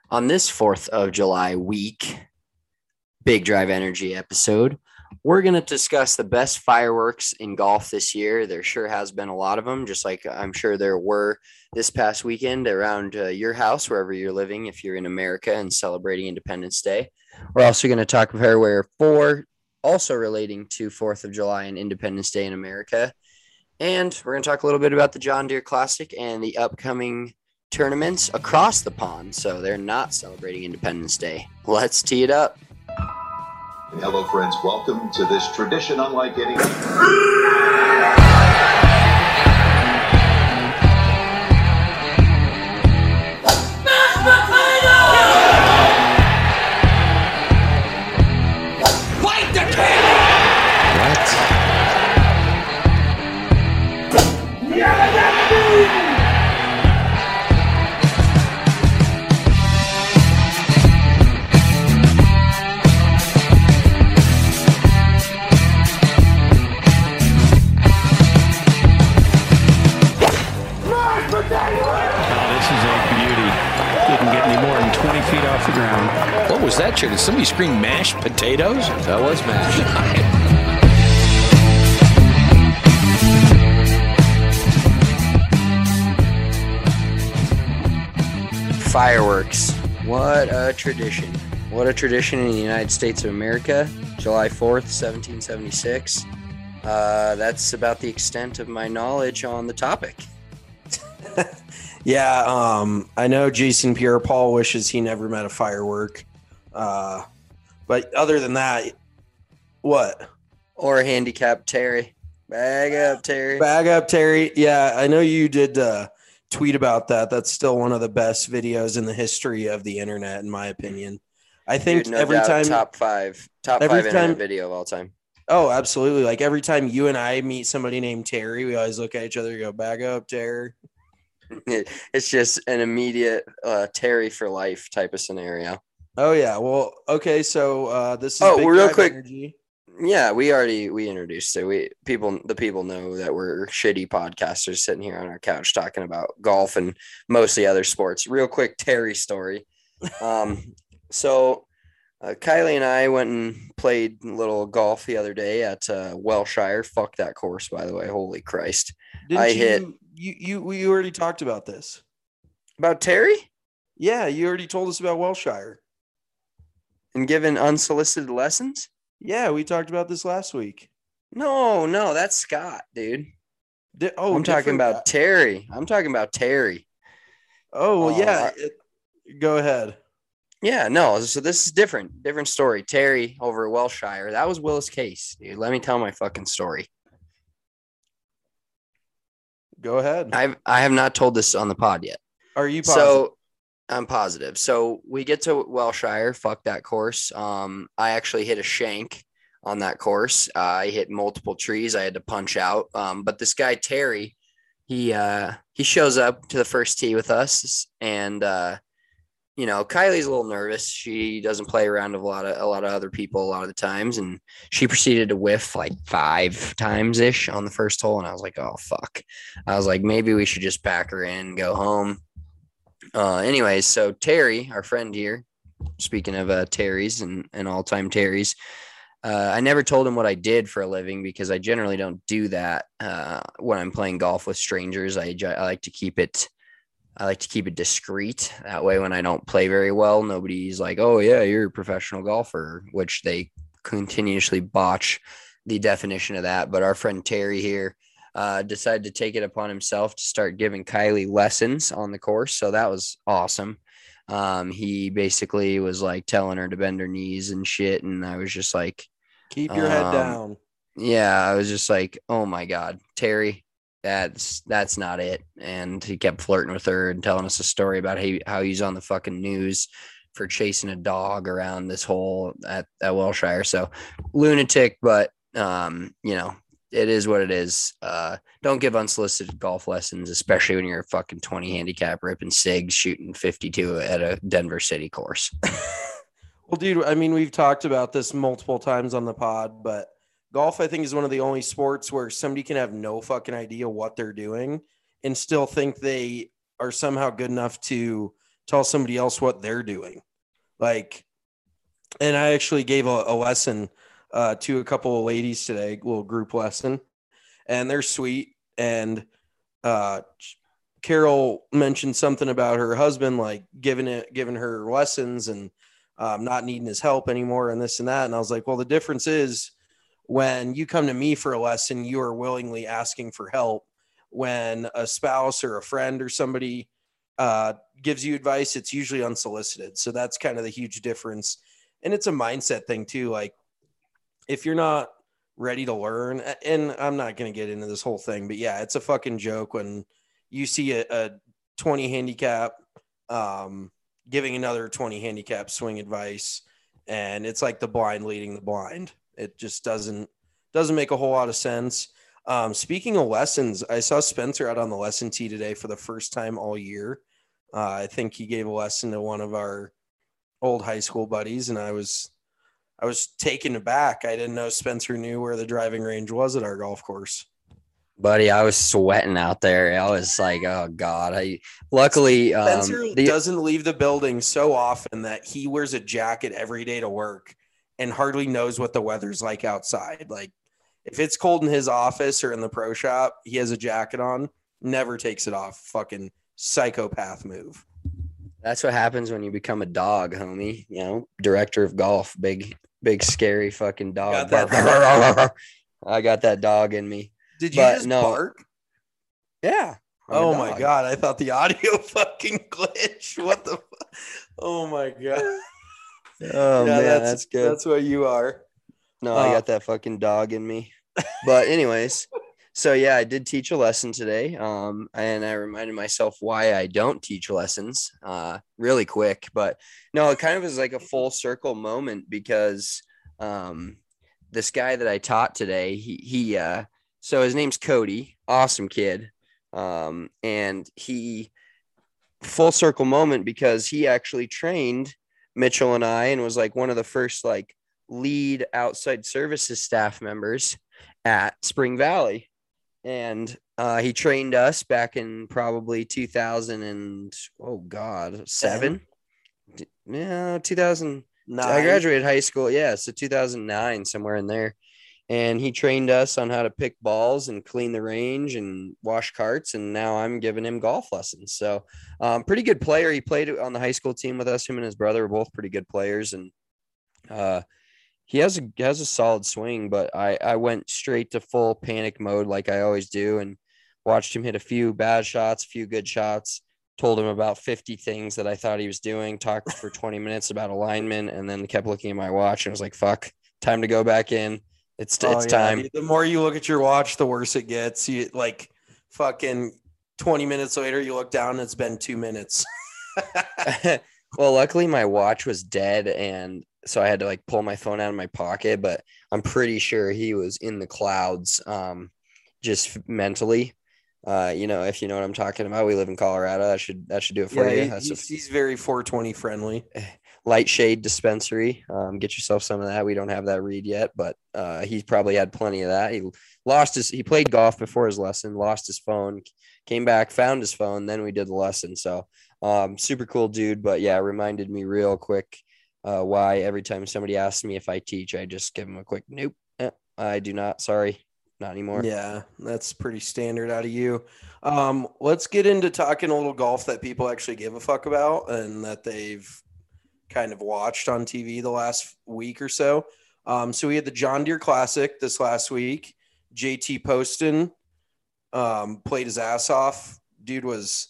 On this 4th of July week, Big Drive Energy episode, we're going to discuss the best fireworks in golf this year. There sure has been a lot of them, just like I'm sure there were this past weekend around your house, wherever you're living, if you're in America and celebrating Independence Day. We're also going to talk Fairway 4, also relating to 4th of July and Independence Day in America. And we're going to talk a little bit about the John Deere Classic and the upcoming tournaments across the pond. So they're not celebrating Independence Day. Let's tee it up. Hello, friends. Welcome to this tradition unlike any. What was that, Chair? Did somebody scream mashed potatoes? That was mashed. Fireworks. What a tradition. What a tradition in the United States of America. July 4th, 1776. That's about the extent of my knowledge on the topic. Yeah, I know Jason Pierre-Paul wishes he never met a firework. But other than that, what? Or handicap Terry. Bag up, Terry. Bag up, Terry. Yeah, I know you did tweet about that. That's still one of the best videos in the history of the internet, in my opinion. I think Dude, no every doubt, time top five internet video of all time. Oh, absolutely. Like every time you and I meet somebody named Terry, we always look at each other and go, bag up, Terry. It's just an immediate Terry for life type of scenario. Oh yeah. Well, okay. So this is Big real quick. Energy. Yeah, we introduced it. The people know that we're shitty podcasters sitting here on our couch talking about golf and mostly other sports. Real quick Terry story. So Kylie and I went and played a little golf the other day at Welshire. Fuck that course, by the way. Holy Christ. We already talked about this. About Terry? Yeah, you already told us about Welshire. And given unsolicited lessons? Yeah, we talked about this last week. No, that's Scott, dude. I'm talking about Terry. I'm talking about Terry. Oh, well, yeah. Go ahead. Yeah, no. So this is different story. Terry over at Welshire. That was Willis Case, dude. Let me tell my fucking story. Go ahead. I have not told this on the pod yet. Are you positive? So I'm positive. So we get to Welshire. Fuck that course. I actually hit a shank on that course. I hit multiple trees. I had to punch out. But this guy Terry, he shows up to the first tee with us, and Kylie's a little nervous. She doesn't play around with a lot of other people a lot of the times, and she proceeded to whiff like 5 times ish on the first hole. And I was like, oh fuck. I was like, maybe we should just pack her in and go home. Anyways, so Terry, our friend here, speaking of Terry's and all-time Terry's, I never told him what I did for a living because I generally don't do that when I'm playing golf with strangers. I like to keep it discreet. That way, when I don't play very well, nobody's like, oh yeah, you're a professional golfer, which they continuously botch the definition of that. But our friend Terry here decided to take it upon himself to start giving Kylie lessons on the course. So that was awesome. He basically was like telling her to bend her knees and shit. And I was just like, keep your head down. Yeah. I was just like, oh my God, Terry, that's not it. And he kept flirting with her and telling us a story about how he's on the fucking news for chasing a dog around this hole at Welshire. So lunatic, but it is what it is. Don't give unsolicited golf lessons, especially when you're a fucking 20 handicap ripping SIGs shooting 52 at a Denver City course. Well, dude, I mean, we've talked about this multiple times on the pod, but golf, I think, is one of the only sports where somebody can have no fucking idea what they're doing and still think they are somehow good enough to tell somebody else what they're doing. Like, and I actually gave a lesson to a couple of ladies today, a little group lesson, and they're sweet. And Carol mentioned something about her husband, like giving her lessons and not needing his help anymore and this and that. And I was like, well, the difference is when you come to me for a lesson, you are willingly asking for help. When a spouse or a friend or somebody gives you advice, it's usually unsolicited. So that's kind of the huge difference. And it's a mindset thing too. Like if you're not ready to learn, and I'm not going to get into this whole thing, but yeah, it's a fucking joke when you see a 20 handicap giving another 20 handicap swing advice, and it's like the blind leading the blind. It just doesn't make a whole lot of sense. Speaking of lessons, I saw Spencer out on the lesson tee today for the first time all year. I think he gave a lesson to one of our old high school buddies, and I was taken aback. I didn't know Spencer knew where the driving range was at our golf course. Buddy, I was sweating out there. I was like, oh God. Luckily Spencer doesn't leave the building so often that he wears a jacket every day to work and hardly knows what the weather's like outside. Like if it's cold in his office or in the pro shop, he has a jacket on, never takes it off. Fucking psychopath move. That's what happens when you become a dog, homie. You know, director of golf, big scary fucking dog. I got that dog in me. Did you just bark? Yeah. Oh my God. I thought the audio fucking glitched. What the Oh my God. Oh yeah, man, that's good. That's what you are. No, I got that fucking dog in me. But anyways, so yeah, I did teach a lesson today. And I reminded myself why I don't teach lessons really quick. But no, it kind of is like a full circle moment because this guy that I taught today, he so his name's Cody, awesome kid. And he full circle moment because he actually trained Mitchell and I and was like one of the first like lead outside services staff members at Spring Valley. And he trained us back in probably 2007. Yeah, 2009. I graduated high school. Yeah, so 2009, somewhere in there. And he trained us on how to pick balls and clean the range and wash carts. And now I'm giving him golf lessons. So pretty good player. He played on the high school team with us. Him and his brother were both pretty good players. And he has a solid swing, but I went straight to full panic mode like I always do and watched him hit a few bad shots, a few good shots, told him about 50 things that I thought he was doing, talked for 20 minutes about alignment, and then kept looking at my watch and was like, fuck, time to go back in. It's time. The more you look at your watch, the worse it gets. You like fucking 20 minutes later, you look down and it's been 2 minutes. Well, luckily my watch was dead. And so I had to like pull my phone out of my pocket, but I'm pretty sure he was in the clouds just mentally. If you know what I'm talking about, we live in Colorado. That should do it for you. He's very 420 friendly. Light shade dispensary. Get yourself some of that. We don't have that read yet, but he probably had plenty of that. He played golf before his lesson, lost his phone, came back, found his phone. Then we did the lesson. So super cool dude. But yeah, reminded me real quick why every time somebody asks me if I teach, I just give them a quick, nope, I do not. Sorry, not anymore. Yeah, that's pretty standard out of you. Let's get into talking a little golf that people actually give a fuck about and that they've kind of watched on TV the last week or so. So we had the John Deere Classic this last week. JT Poston played his ass off. Dude was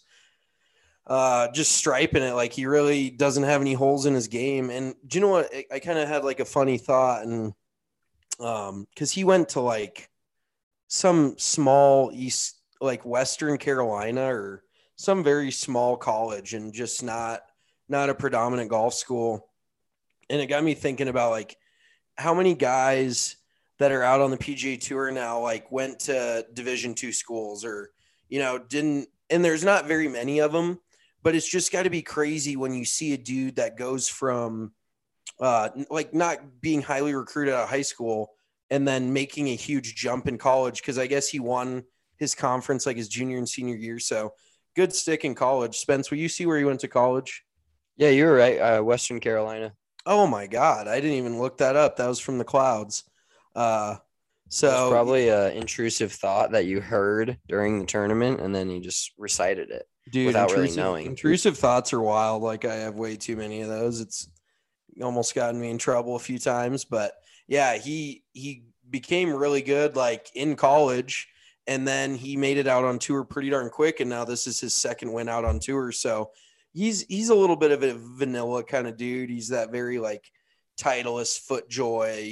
just striping it. Like he really doesn't have any holes in his game. And do you know what? I kind of had like a funny thought, and because he went to like some small East, like Western Carolina or some very small college, and just not a predominant golf school. And it got me thinking about like how many guys that are out on the PGA Tour now, like went to Division II schools or, didn't, and there's not very many of them, but it's just got to be crazy when you see a dude that goes from like not being highly recruited out of high school and then making a huge jump in college. Cause I guess he won his conference like his junior and senior year. So good stick in college. Spence, will you see where he went to college? Yeah, you were right. Western Carolina. Oh my God, I didn't even look that up. That was from the clouds. Uh, It was so probably an intrusive thought that you heard during the tournament, and then you just recited it dude, without really knowing. intrusive thoughts are wild. Like I have way too many of those. It's almost gotten me in trouble a few times, but yeah, he became really good like in college, and then he made it out on tour pretty darn quick, and now this is his second win out on tour. So he's a little bit of a vanilla kind of dude. He's that very like Titleist, FootJoy,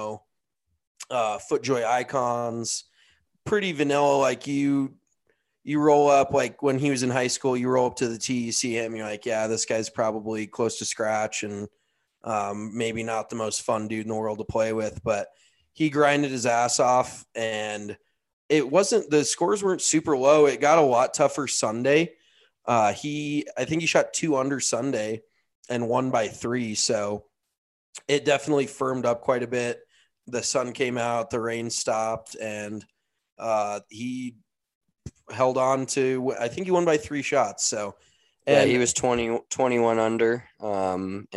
FootJoy icons, pretty vanilla. Like you roll up, like when he was in high school, you roll up to the tee, you see him, you're like, yeah, this guy's probably close to scratch and maybe not the most fun dude in the world to play with, but he grinded his ass off, and the scores weren't super low. It got a lot tougher Sunday. I think he shot 2 under Sunday and won by 3. So it definitely firmed up quite a bit. The sun came out, the rain stopped, and he held on to, I think he won by 3 shots. So, yeah, he was 21 under. And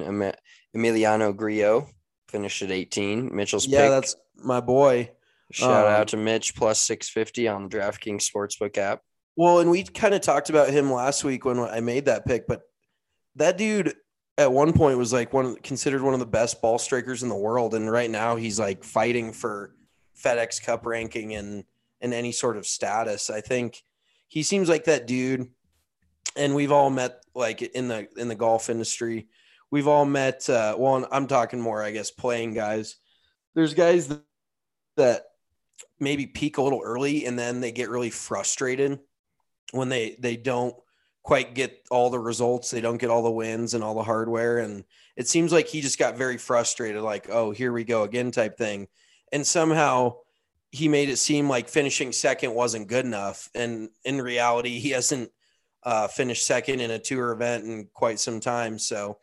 Emiliano Grillo finished at 18. Mitchell's pick. That's my boy. Shout out to Mitch, plus 650 on the DraftKings Sportsbook app. Well, and we kind of talked about him last week when I made that pick, but that dude at one point was like considered one of the best ball strikers in the world, and right now he's like fighting for FedEx Cup ranking and any sort of status. I think he seems like that dude, and we've all met like in the golf industry. We've all met. Well, I'm talking more, I guess, playing guys. There's guys that maybe peak a little early, and then they get really frustrated when they don't quite get all the results. They don't get all the wins and all the hardware. And it seems like he just got very frustrated, like, oh, here we go again type thing. And somehow he made it seem like finishing second wasn't good enough. And in reality, he hasn't finished second in a tour event in quite some time. So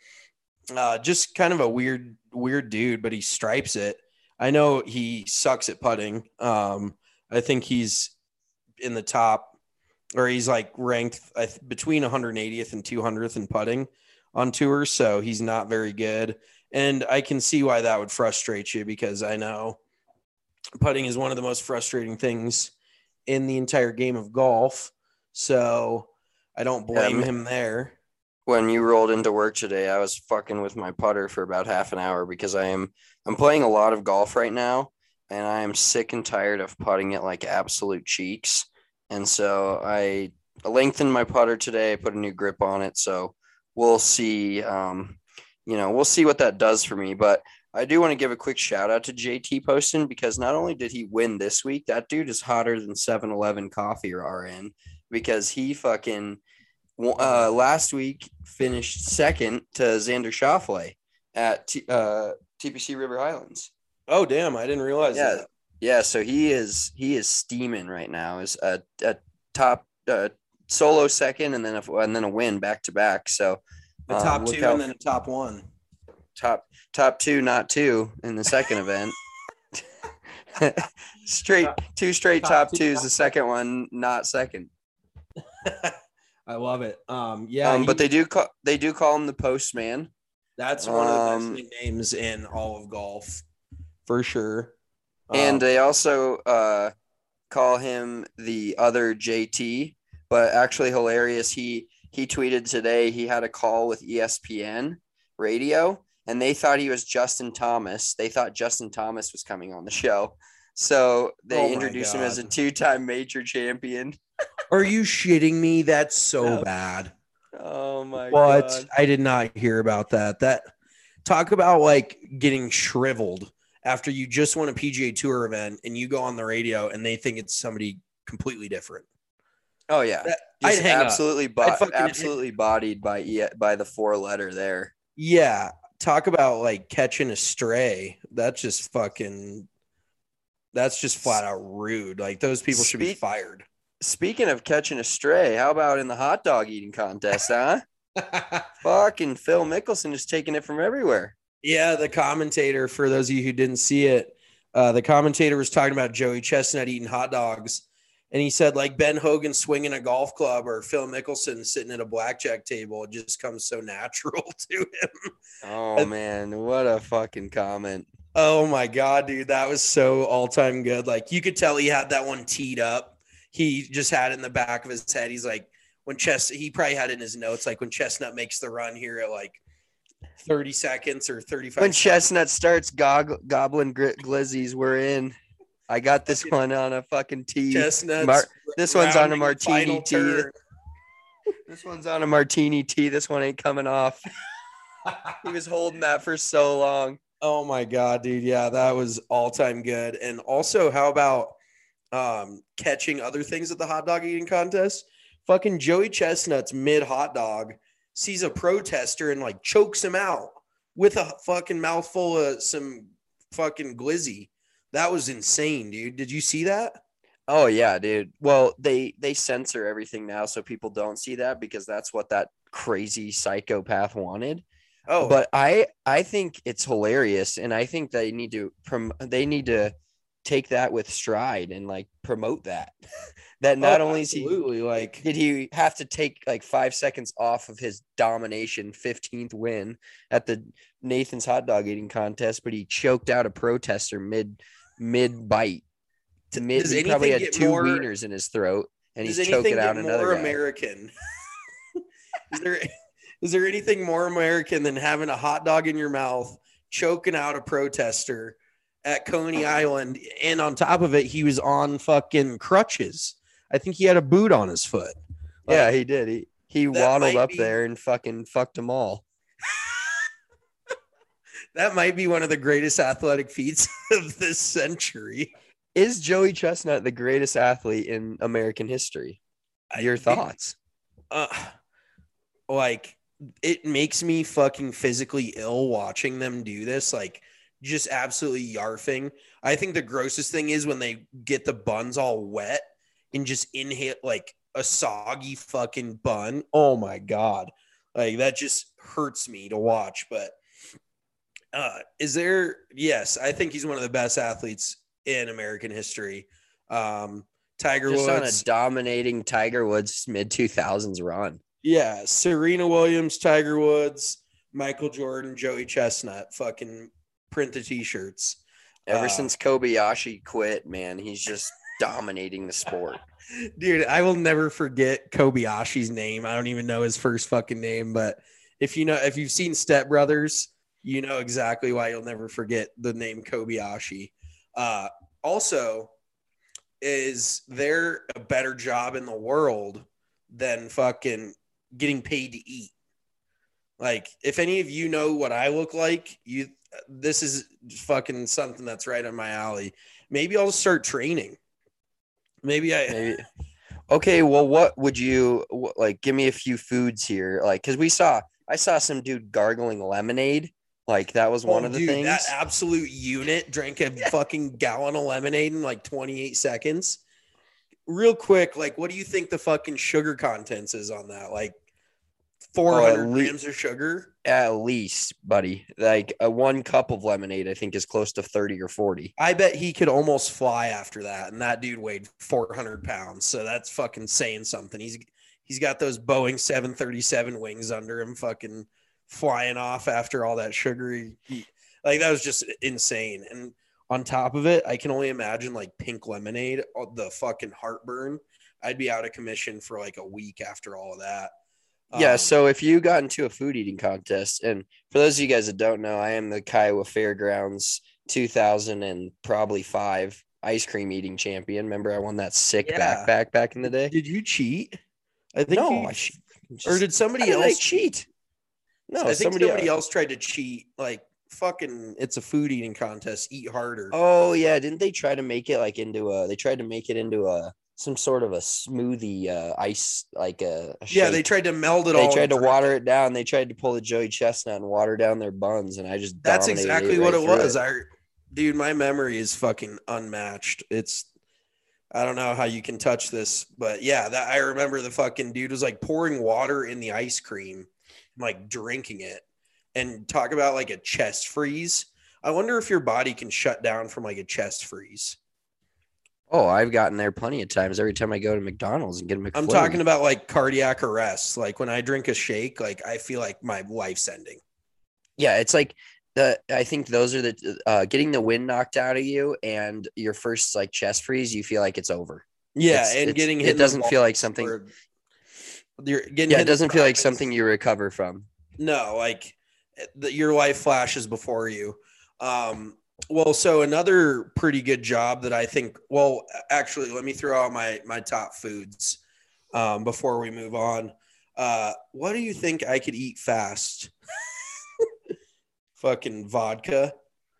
just kind of a weird dude, but he stripes it. I know he sucks at putting. I think he's in the top, or he's like ranked between 180th and 200th in putting on tour. So he's not very good. And I can see why that would frustrate you, because I know putting is one of the most frustrating things in the entire game of golf. So I don't blame him there. When you rolled into work today, I was fucking with my putter for about half an hour because I'm playing a lot of golf right now, and I am sick and tired of putting it like absolute cheeks. And so I lengthened my putter today. I put a new grip on it. So we'll see, we'll see what that does for me. But I do want to give a quick shout out to JT Poston, because not only did he win this week, that dude is hotter than 7-Eleven coffee or RN, because he fucking last week finished second to Xander Schauffele at TPC River Highlands. Oh, damn. I didn't realize that. Yeah, so he is steaming right now. Is a top solo second, and then a win back to back. So a top 2 and then a top 1. Top 2, not 2 in the second event. Two straight top 2s. The second one not second. I love it. But they do call him the Postman. That's one of the best nicknames in all of golf, for sure. And they also call him the other JT, but actually hilarious. He tweeted today he had a call with ESPN radio, and they thought he was Justin Thomas. They thought Justin Thomas was coming on the show. So they introduced him as a 2-time major champion. Are you shitting me? That's so bad. Oh my God. I did not hear about that. That talk about like getting shriveled after you just won a PGA Tour event and you go on the radio and they think it's somebody completely different. Oh yeah. I'd hang absolutely absolutely bodied by the 4-letter there. Yeah. Talk about like catching a stray. That's just flat out rude. Like those people should be fired. Speaking of catching a stray, how about in the hot dog eating contest, huh? Fucking Phil Mickelson is taking it from everywhere. Yeah, the commentator, for those of you who didn't see it, the commentator was talking about Joey Chestnut eating hot dogs, And he said, like, Ben Hogan swinging a golf club or Phil Mickelson sitting at a blackjack table, it just comes so natural to him. Oh man, what a fucking comment. Oh my God, dude. That was so all-time good. Like, you could tell he had that one teed up. He just had it in the back of his head. He's like, he probably had it in his notes, like when Chestnut makes the run here at like 30 seconds or 35 When seconds. Chestnut starts gobbling glizzies, we're in. I got this one on a fucking tee. Chestnuts. This one's on a rounding the martini final tee. turn. This one's on a martini tee. This one ain't coming off. He was holding that for so long. Oh my God, dude. Yeah, that was all-time good. And also, how about catching other things at the hot dog eating contest? Fucking Joey Chestnut's mid hot dog sees a protester and like chokes him out with a fucking mouthful of some fucking glizzy. That was insane, dude. Did you see that? Oh yeah, dude. Well, they censor everything now so people don't see that because that's what that crazy psychopath wanted. Oh, But I think it's hilarious, and I think they need to take that with stride and like promote that. That not only is absolutely, like, did he have to take like 5 seconds off of his domination 15th win at the Nathan's hot dog eating contest, but he choked out a protester mid bite. Does He probably anything had get two more- wieners in his throat, and does he's anything choking out get another more guy. American? Is there anything more American than having a hot dog in your mouth, choking out a protester at Coney Island, and on top of it, he was on fucking crutches. I think he had a boot on his foot. Like, Yeah, he did. He that waddled might up be- there and fucking fucked them all. that might be one of the greatest athletic feats of this century. Is Joey Chestnut the greatest athlete in American history? Your thoughts? Like, it makes me fucking physically ill watching them do this. Like, just absolutely yarfing. I think the grossest thing is when they get the buns all wet and just inhale like a soggy fucking bun. Oh my God. Like, that just hurts me to watch. But yes, I think he's one of the best athletes in American history. Tiger Just on a Woods. dominating Tiger Woods mid 2000s run. Yeah, Serena Williams, Tiger Woods, Michael Jordan, Joey Chestnut, fucking print the t-shirts. Ever since Kobayashi quit, man, he's just dominating the sport. Dude, I will never forget Kobayashi's name. I don't even know his first fucking name, but if you've seen Step Brothers, you know exactly why you'll never forget the name Kobayashi. Also, is there a better job in the world than fucking getting paid to eat? Like, if any of you know what I look like, this is fucking something that's right on my alley. Maybe I'll start training. Maybe. Okay, well, what would you like? Give me a few foods here, like, because I saw some dude gargling lemonade. Like, that was one of the things. That absolute unit drank a fucking gallon of lemonade in like 28 seconds. Real quick, like, what do you think the fucking sugar contents is on that? Like 400 grams of sugar? At least, buddy. Like, one cup of lemonade, I think, is close to 30 or 40. I bet he could almost fly after that. And that dude weighed 400 pounds. So that's fucking saying something. He's got those Boeing 737 wings under him, fucking flying off after all that sugary. Like, that was just insane. And on top of it, I can only imagine like pink lemonade, the fucking heartburn. I'd be out of commission for like a week after all of that. Yeah, so if you got into a food eating contest, and for those of you guys that don't know, I am the Kiowa Fairgrounds 2000 and probably 5 ice cream eating champion. Remember, I won that sick backpack back in the day. Did you cheat? I think No, or did somebody How did I else cheat? No, I think somebody else tried to cheat. Like, fucking, it's a food eating contest. Eat harder. Oh yeah, didn't they try to make it like they tried to make it into some sort of a smoothie ice, like a yeah, shake. they tried to meld it They all. tried to water it down. They tried to pull the Joey Chestnut and water down their buns, and I just That's dominated exactly right what it through was. Dude, my memory is fucking unmatched. I don't know how you can touch this, but yeah, I remember the fucking dude was like pouring water in the ice cream, like drinking it, and talk about like a chest freeze. I wonder if your body can shut down from like a chest freeze. Oh, I've gotten there plenty of times. Every time I go to McDonald's and get a I'm McFlurry. talking about like cardiac arrest. Like when I drink a shake, like I feel like my life's ending. Yeah, it's like I think those are the getting the wind knocked out of you and your first like chest freeze, you feel like it's over. Yeah, and getting hit it in the doesn't feel like balls something. or you're getting Yeah, hit it in the doesn't feel like privates. something you recover from. No, like your life flashes before you. Well, so another pretty good job that I think. Well, actually, let me throw out my top foods before we move on. What do you think I could eat fast? Fucking vodka.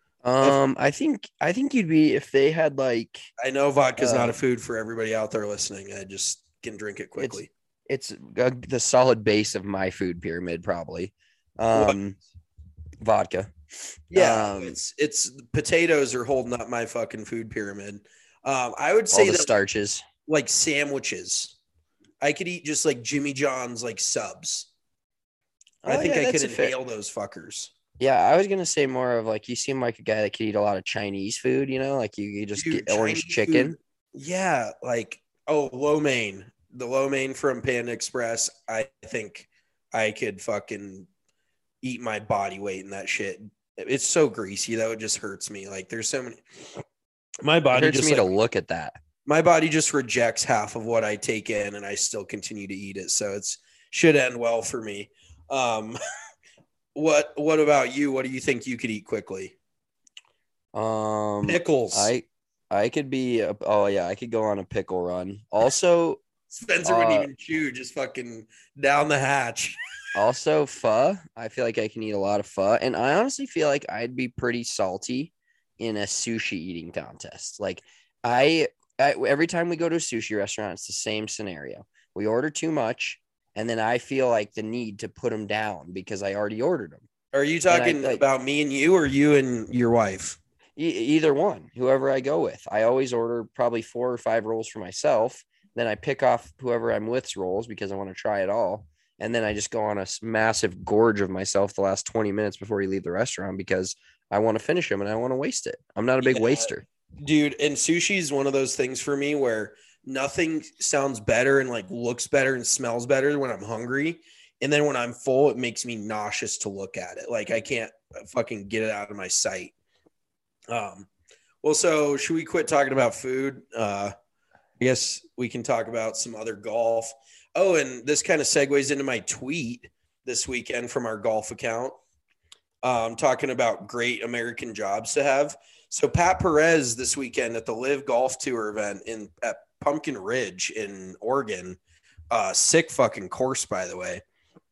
I think you'd be if they had like I know vodka's not a uh food for everybody out there listening. I just can drink it it's quickly. it's the solid base of my food pyramid probably. What? Vodka. Yeah, Um, it's potatoes are holding up my fucking food pyramid. I would all say the that starches. like sandwiches. I could eat just like Jimmy John's like subs. I Oh think yeah, I could that's a fair. inhale those fuckers. Yeah, I was gonna say more of like you seem like a guy that could eat a lot of Chinese food, like you just Dude, get orange Chinese food. chicken. Yeah, like lo mein. The lo mein from Panda Express. I think I could fucking eat my body weight in that shit. It's so greasy that it just hurts me. Like there's so many. My It body hurts just me to like look at that. my body just rejects half of what I take in, and I still continue to eat it. So it's should end well for me. Um, what about you? What do you think you could eat quickly? Um, Pickles. I could be. Oh yeah, I could go on a pickle run. Also, Spencer wouldn't uh, even chew, just fucking down the hatch. also pho. I feel like I can eat a lot of pho, and I honestly feel like I'd be pretty salty in a sushi eating contest. Like I every time we go to a sushi restaurant, it's the same scenario. We order too much, and then I feel like the need to put them down because I already ordered them. Are you And I talking like about me and you, or you and your wife? either one, whoever I go with. I always order probably 4 or 5 rolls for myself. Then I pick off whoever I'm with's rolls because I want to try it all. And then I just go on a massive gorge of myself the last 20 minutes before you leave the restaurant because I want to finish them and I want to waste it. I'm not a big Yeah, waster. dude. And sushi is one of those things for me where nothing sounds better and like looks better and smells better when I'm hungry. And then when I'm full, it makes me nauseous to look at it. Like I can't fucking get it out of my sight. Um, well, so should we quit talking about food? I guess we can talk about some other golf. Oh, and this kind of segues into my tweet this weekend from our golf account, talking about great American jobs to have. So Pat Perez this weekend at the Live Golf Tour event at Pumpkin Ridge in Oregon, sick fucking course by the way.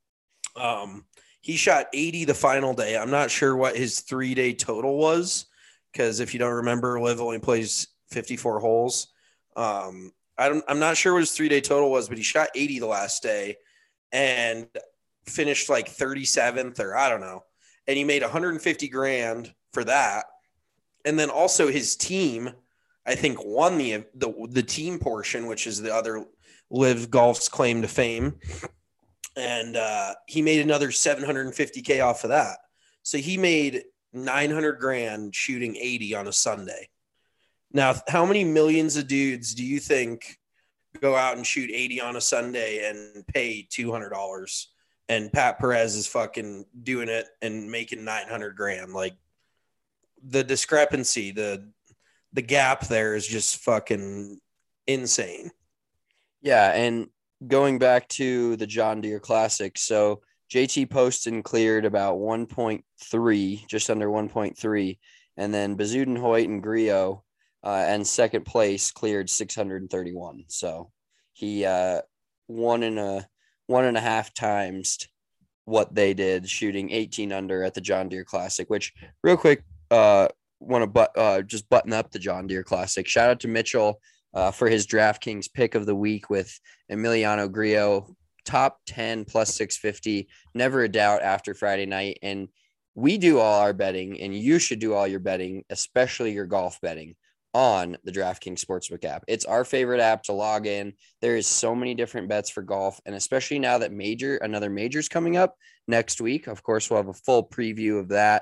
He shot 80 the final day. I'm not sure what his 3-day total was because if you don't remember, Live only plays 54 holes. I'm not sure what his 3-day total was, but he shot 80 the last day and finished like 37th or I don't know. And he made 150 grand for that. And then also his team, I think, won the team portion, which is the other Live Golf's claim to fame. And he made another 750K off of that. So he made 900 grand shooting 80 on a Sunday. Now, how many millions of dudes do you think go out and shoot 80 on a Sunday and pay $200? And Pat Perez is fucking doing it and making 900 grand. Like the discrepancy, the gap there is just fucking insane. Yeah. And going back to the John Deere Classic. So JT Poston cleared about 1.3, just under 1.3. And then Bezuidenhout and Griot and second place cleared 631. So he one and a half times what they did, shooting 18 under at the John Deere Classic, which real quick, want to just button up the John Deere Classic. Shout out to Mitchell for his DraftKings pick of the week with Emiliano Griot, top 10 plus 650, never a doubt after Friday night. And we do all our betting, and you should do all your betting, especially your golf betting, on the DraftKings Sportsbook app. It's our favorite app to log in. There is so many different bets for golf, and especially now that another major's coming up next week. Of course, we'll have a full preview of that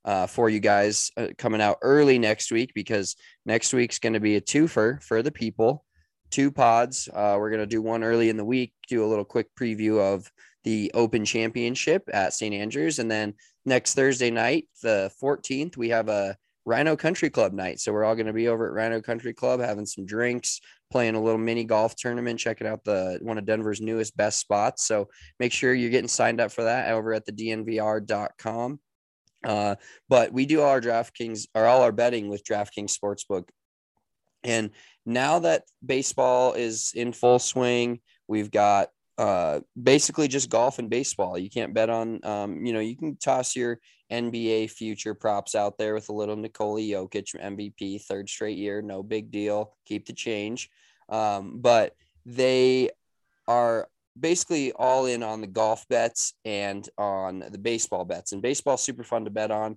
for you guys coming out early next week, because next week's going to be a twofer for the people. 2 pods. We're going to do one early in the week, do a little quick preview of the Open Championship at St. Andrews. And then next Thursday night, the 14th, we have a Rhino Country Club night. So we're all going to be over at Rhino Country Club having some drinks, playing a little mini golf tournament, checking out one of Denver's newest best spots. So make sure you're getting signed up for that over at the dnvr.com. But we do all our betting with DraftKings Sportsbook. And now that baseball is in full swing, we've got basically just golf and baseball. You can't bet on, you can toss your NBA future props out there with a little Nikola Jokic MVP, 3rd straight year. No big deal. Keep the change. But they are basically all in on the golf bets and on the baseball bets. And baseball is super fun to bet on.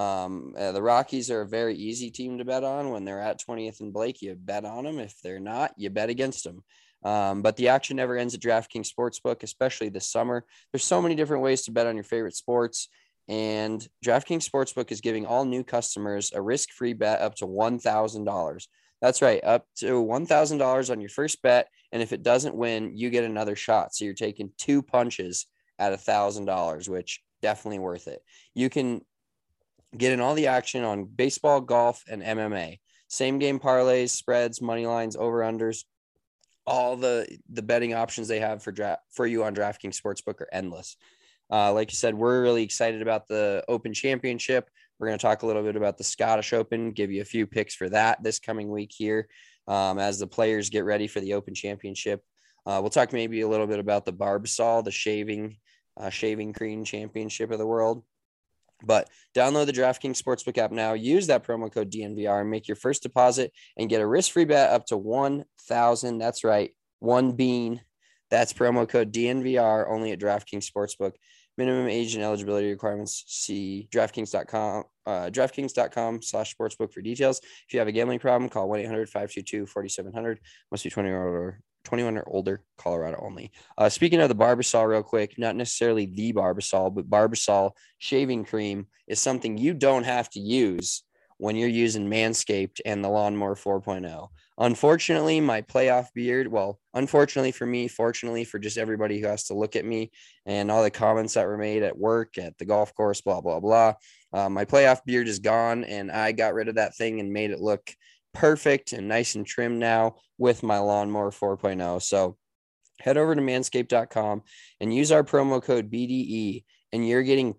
The Rockies are a very easy team to bet on. When they're at 20th and Blake, you bet on them. If they're not, you bet against them. But the action never ends at DraftKings Sportsbook, especially this summer. There's so many different ways to bet on your favorite sports. And DraftKings Sportsbook is giving all new customers a risk-free bet up to $1,000. That's right, up to $1,000 on your first bet. And if it doesn't win, you get another shot. So you're taking 2 punches at $1,000, which definitely worth it. You can get in all the action on baseball, golf, and MMA. Same game parlays, spreads, money lines, over-unders. All the betting options they have for you on DraftKings Sportsbook are endless. Like you said, we're really excited about the Open Championship. We're going to talk a little bit about the Scottish Open, give you a few picks for that this coming week here as the players get ready for the Open Championship. We'll talk maybe a little bit about the Barbasol, the shaving cream championship of the world. But download the DraftKings Sportsbook app now. Use that promo code DNVR and make your first deposit and get a risk-free bet up to $1,000. That's right, 1 bean. That's promo code DNVR only at DraftKings Sportsbook. Minimum age and eligibility requirements. See DraftKings.com, DraftKings.com/sportsbook for details. If you have a gambling problem, call 1-800-522-4700. Must be 21 or older, Colorado only. Speaking of the Barbasol real quick, not necessarily the Barbasol, but Barbasol shaving cream is something you don't have to use when you're using Manscaped and the Lawnmower 4.0. Unfortunately, my playoff beard, unfortunately for me, fortunately for just everybody who has to look at me and all the comments that were made at work, at the golf course, blah, blah, blah. My playoff beard is gone, and I got rid of that thing and made it look perfect and nice and trim now with my Lawnmower 4.0. So head over to manscaped.com and use our promo code BDE, and you're getting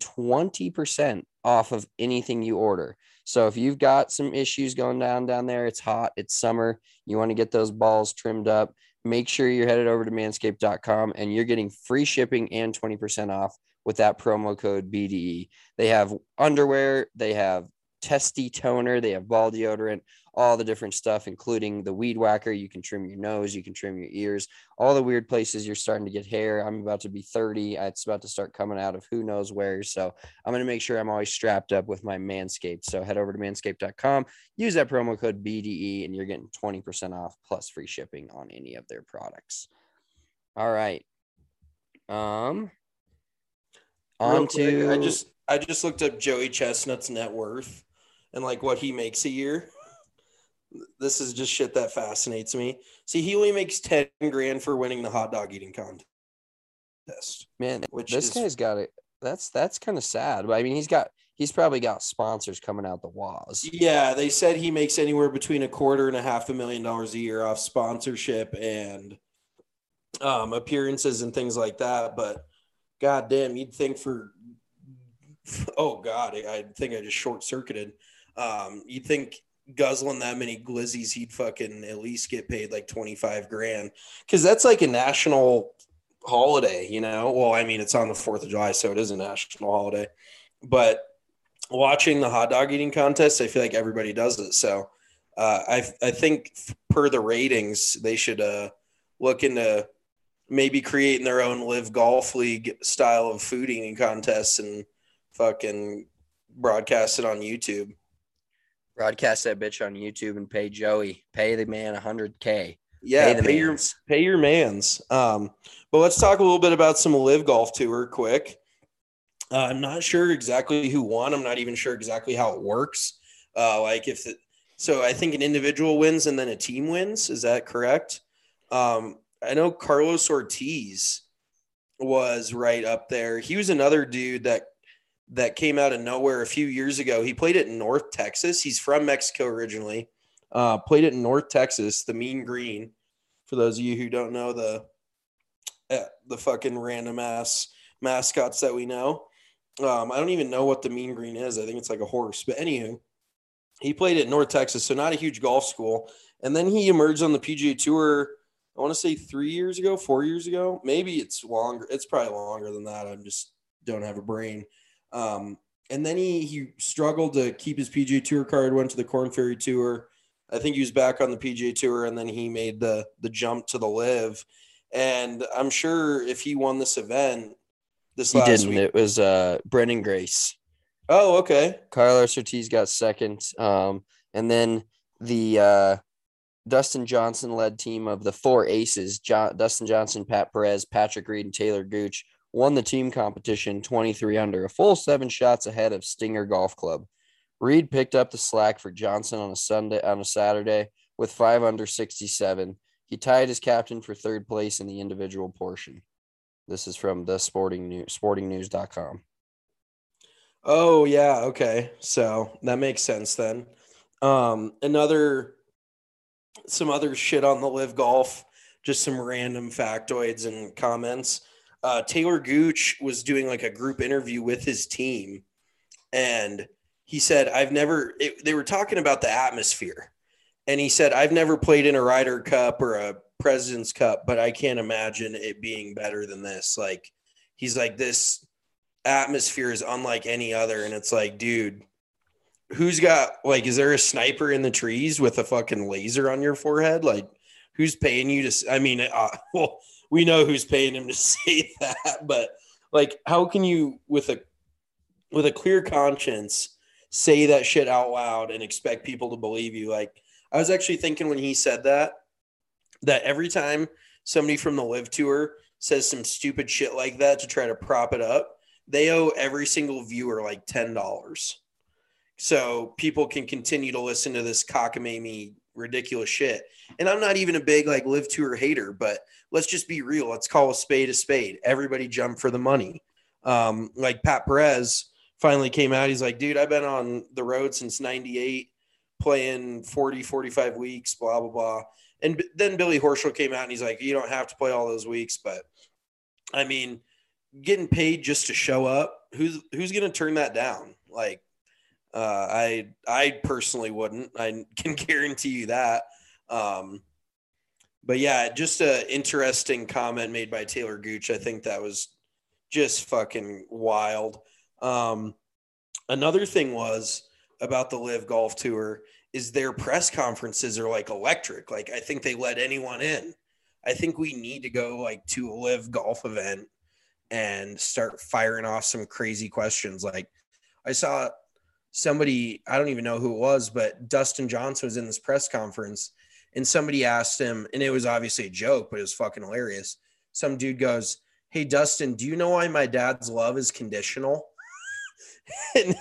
20% off of anything you order. So if you've got some issues going down there, it's hot, it's summer, you want to get those balls trimmed up, make sure you're headed over to manscaped.com and you're getting free shipping and 20% off with that promo code BDE. They have underwear, they have testy toner, they have ball deodorant, all the different stuff, including the weed whacker. You can trim your nose, you can trim your ears, all the weird places you're starting to get hair. I'm about to be 30. It's about to start coming out of who knows where. So I'm going to make sure I'm always strapped up with my Manscaped. So head over to manscaped.com, use that promo code BDE, and you're getting 20% off plus free shipping on any of their products. All right. On to I just looked up Joey Chestnut's net worth and like what he makes a year. This is just shit that fascinates me. See, he only makes $10,000 for winning the hot dog eating contest. Man, this guy's got it. That's kind of sad. But I mean, he's probably got sponsors coming out the walls. Yeah, they said he makes anywhere between $250,000 and $500,000 a year off sponsorship and appearances and things like that. But goddamn, you'd think I think I just short circuited. You'd think guzzling that many glizzies, he'd fucking at least get paid like $25,000, because that's like a national holiday, you know? Well, I mean, it's on the 4th of July, so it is a national holiday. But watching the hot dog eating contest, I feel like everybody does it. So I think per the ratings, they should look into maybe creating their own live golf league style of food eating contests and fucking broadcast it on YouTube. Broadcast that bitch on YouTube and pay Joey. Pay the man $100K. Yeah, pay your mans. But let's talk a little bit about some live golf tour quick. I'm not sure exactly who won. I'm not even sure exactly how it works. So I think an individual wins and then a team wins. Is that correct? I know Carlos Ortiz was right up there. He was another dude that came out of nowhere a few years ago. He played it in North Texas. He's from Mexico originally. Played it in North Texas, the Mean Green. For those of you who don't know the fucking random ass mascots that we know. I don't even know what the Mean Green is. I think it's like a horse. But anywho, he played at North Texas, so not a huge golf school. And then he emerged on the PGA Tour, I want to say 3 years ago, 4 years ago. Maybe it's longer. It's probably longer than that. I just don't have a brain. And then he struggled to keep his PGA Tour card, went to the Korn Ferry Tour. I think he was back on the PGA Tour, and then he made the jump to the Live. And I'm sure if he won this event this last week. It was Brendan Grace. Oh, okay. Carlos Ortiz got second. And then the Dustin Johnson-led team of the four aces, Dustin Johnson, Pat Perez, Patrick Reed, and Taylor Gooch, won the team competition 23 under, a full 7 shots ahead of Stinger Golf Club. Reed picked up the slack for Johnson on a Saturday with 5 under 67. He tied his captain for third place in the individual portion. This is from the sportingnews.com. Oh, yeah. Okay. So that makes sense then. Some other shit on the Live Golf, just some random factoids and comments. Taylor Gooch was doing like a group interview with his team, and he said, they were talking about the atmosphere, and he said, I've never played in a Ryder Cup or a President's Cup, but I can't imagine it being better than this. Like, he's like, this atmosphere is unlike any other. And it's like, dude, who's got, like, is there a sniper in the trees with a fucking laser on your forehead? Like, who's paying you to, I mean, well, we know who's paying him to say that, but like, how can you with a clear conscience say that shit out loud and expect people to believe you? Like, I was actually thinking when he said that every time somebody from the Live Tour says some stupid shit like that to try to prop it up, they owe every single viewer like $10. So people can continue to listen to this cockamamie ridiculous shit. And I'm not even a big like Live Tour hater, but let's just be real. Let's call a spade. Everybody jump for the money. Like Pat Perez finally came out. He's like, dude, I've been on the road since 98, playing 40, 45 weeks, blah, blah, blah. And then Billy Horschel came out and he's like, you don't have to play all those weeks. But I mean, getting paid just to show up, who's going to turn that down? Like, I personally wouldn't. I can guarantee you that. But yeah, just an interesting comment made by Taylor Gooch. I think that was just fucking wild. Another thing was about the Live Golf Tour is their press conferences are like electric. Like, I think they let anyone in. I think we need to go like to a Live Golf event and start firing off some crazy questions. Like, I saw somebody, I don't even know who it was, but Dustin Johnson was in this press conference and somebody asked him, and it was obviously a joke, but it was fucking hilarious. Some dude goes, hey, Dustin, do you know why my dad's love is conditional? And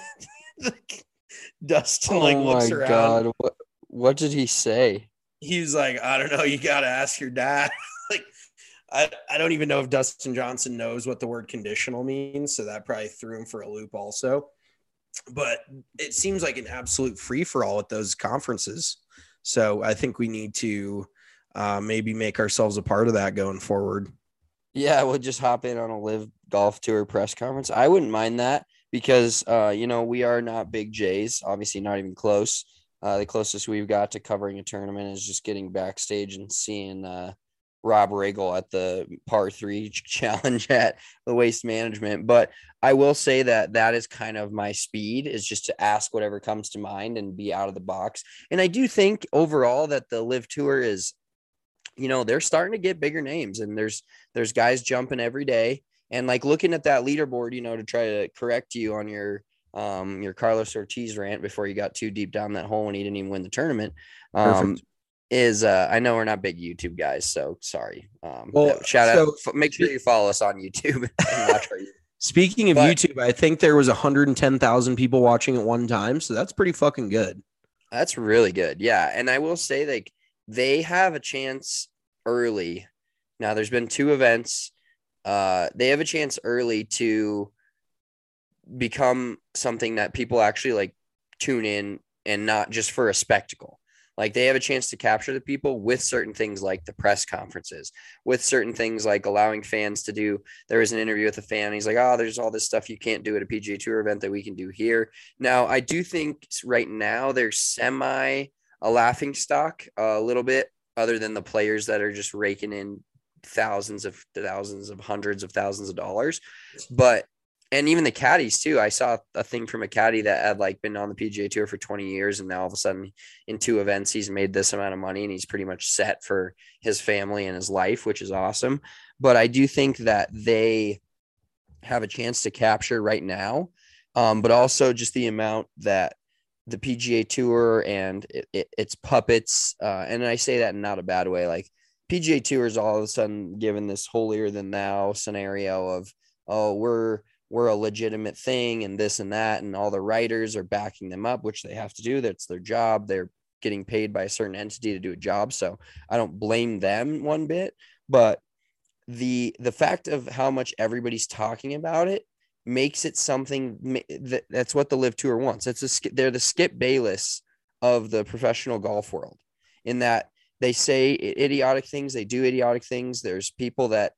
Dustin looks around. God, what did he say? He's like, I don't know. You got to ask your dad. Like, I don't even know if Dustin Johnson knows what the word conditional means. So that probably threw him for a loop also. But it seems like an absolute free for all at those conferences. So I think we need to maybe make ourselves a part of that going forward. Yeah, we'll just hop in on a Live Golf Tour press conference. I wouldn't mind that because, we are not big Jays, obviously not even close. The closest we've got to covering a tournament is just getting backstage and seeing Rob Riggle at the par 3 challenge at the Waste Management. But I will say that is kind of my speed, is just to ask whatever comes to mind and be out of the box. And I do think overall that the Live Tour is, they're starting to get bigger names, and there's guys jumping every day. And like looking at that leaderboard, to try to correct you on your Carlos Ortiz rant before you got too deep down that hole and he didn't even win the tournament. I know we're not big YouTube guys, so sorry. Shout out. Make sure you follow us on YouTube and watch our Speaking of But YouTube, I think there was 110,000 people watching at one time, so that's pretty fucking good. that's really good. Yeah. And I will say, like, they have a chance early. Now, there's been 2 events. They have a chance early to become something that people actually like tune in, and not just for a spectacle. Like, they have a chance to capture the people with certain things like the press conferences, with certain things like allowing fans to do. There was an interview with a fan. He's like, oh, there's all this stuff you can't do at a PGA Tour event that we can do here. Now, I do think right now they're semi a laughing stock a little bit, other than the players that are just raking in thousands of hundreds of thousands of dollars. But and even the caddies too. I saw a thing from a caddy that had like been on the PGA Tour for 20 years, and now all of a sudden in 2 events he's made this amount of money, and he's pretty much set for his family and his life, which is awesome. But I do think that they have a chance to capture right now, but also just the amount that the PGA Tour and its puppets, and I say that in not a bad way, like PGA Tour is all of a sudden given this holier than thou scenario of, oh, we're a legitimate thing and this and that, and all the writers are backing them up, which they have to do. That's their job. They're getting paid by a certain entity to do a job. So I don't blame them one bit, but the fact of how much everybody's talking about it makes it something that's what the Live Tour wants. They're the Skip Bayless of the professional golf world, in that they say idiotic things, they do idiotic things. There's people that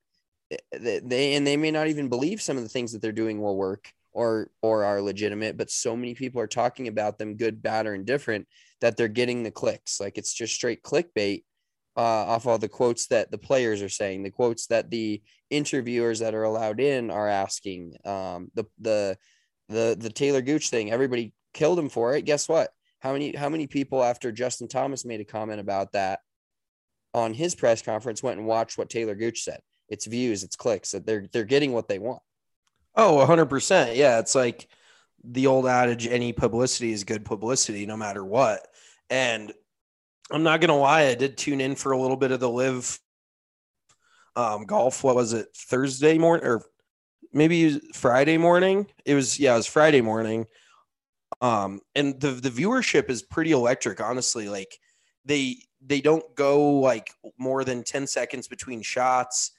they may not even believe some of the things that they're doing will work or are legitimate, but so many people are talking about them, good, bad, or indifferent, that they're getting the clicks. Like, it's just straight clickbait off all the quotes that the players are saying, the quotes that the interviewers that are allowed in are asking. The Taylor Gooch thing, everybody killed him for it. Guess what? How many people, after Justin Thomas made a comment about that on his press conference, went and watched what Taylor Gooch said? It's views, it's clicks. That they're getting what they want. Oh, 100%. Yeah, it's like the old adage, any publicity is good publicity no matter what. And I'm not going to lie, I did tune in for a little bit of the Live golf. What was it? Thursday morning, or maybe Friday morning? It was Friday morning. And the viewership is pretty electric, honestly. Like, they don't go like more than 10 seconds between shots.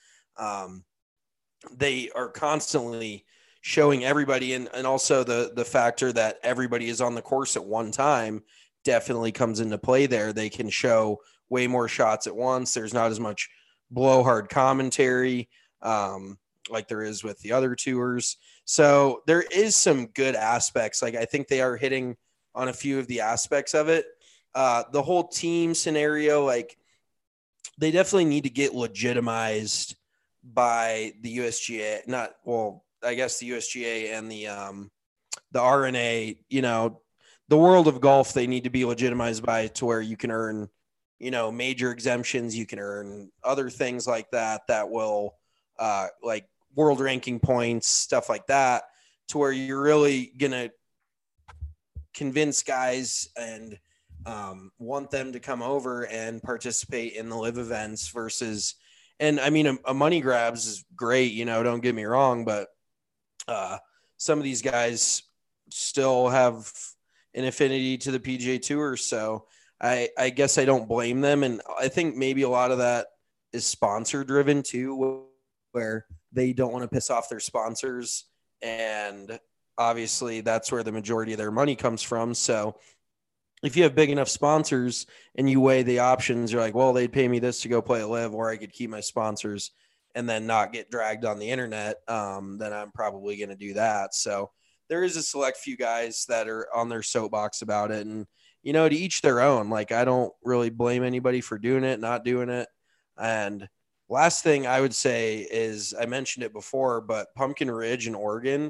They are constantly showing everybody, and also the factor that everybody is on the course at one time definitely comes into play there. They can show way more shots at once. There's not as much blowhard commentary like there is with the other tours. So there is some good aspects. Like, I think they are hitting on a few of the aspects of it. The whole team scenario, like, they definitely need to get legitimized by the USGA. I guess the USGA and the RNA, the world of golf, they need to be legitimized by, to where you can earn, major exemptions. You can earn other things like that will like world ranking points, stuff like that, to where you're really going to convince guys and want them to come over and participate in the Live events versus, and I mean, a money grabs is great, don't get me wrong, but some of these guys still have an affinity to the PGA Tour. So I guess I don't blame them. And I think maybe a lot of that is sponsor driven too, where they don't want to piss off their sponsors. And obviously that's where the majority of their money comes from. So if you have big enough sponsors and you weigh the options, you're like, well, they'd pay me this to go play a Live, or I could keep my sponsors and then not get dragged on the internet. Then I'm probably going to do that. So there is a select few guys that are on their soapbox about it, and, to each their own. Like, I don't really blame anybody for doing it, not doing it. And last thing I would say is, I mentioned it before, but Pumpkin Ridge in Oregon.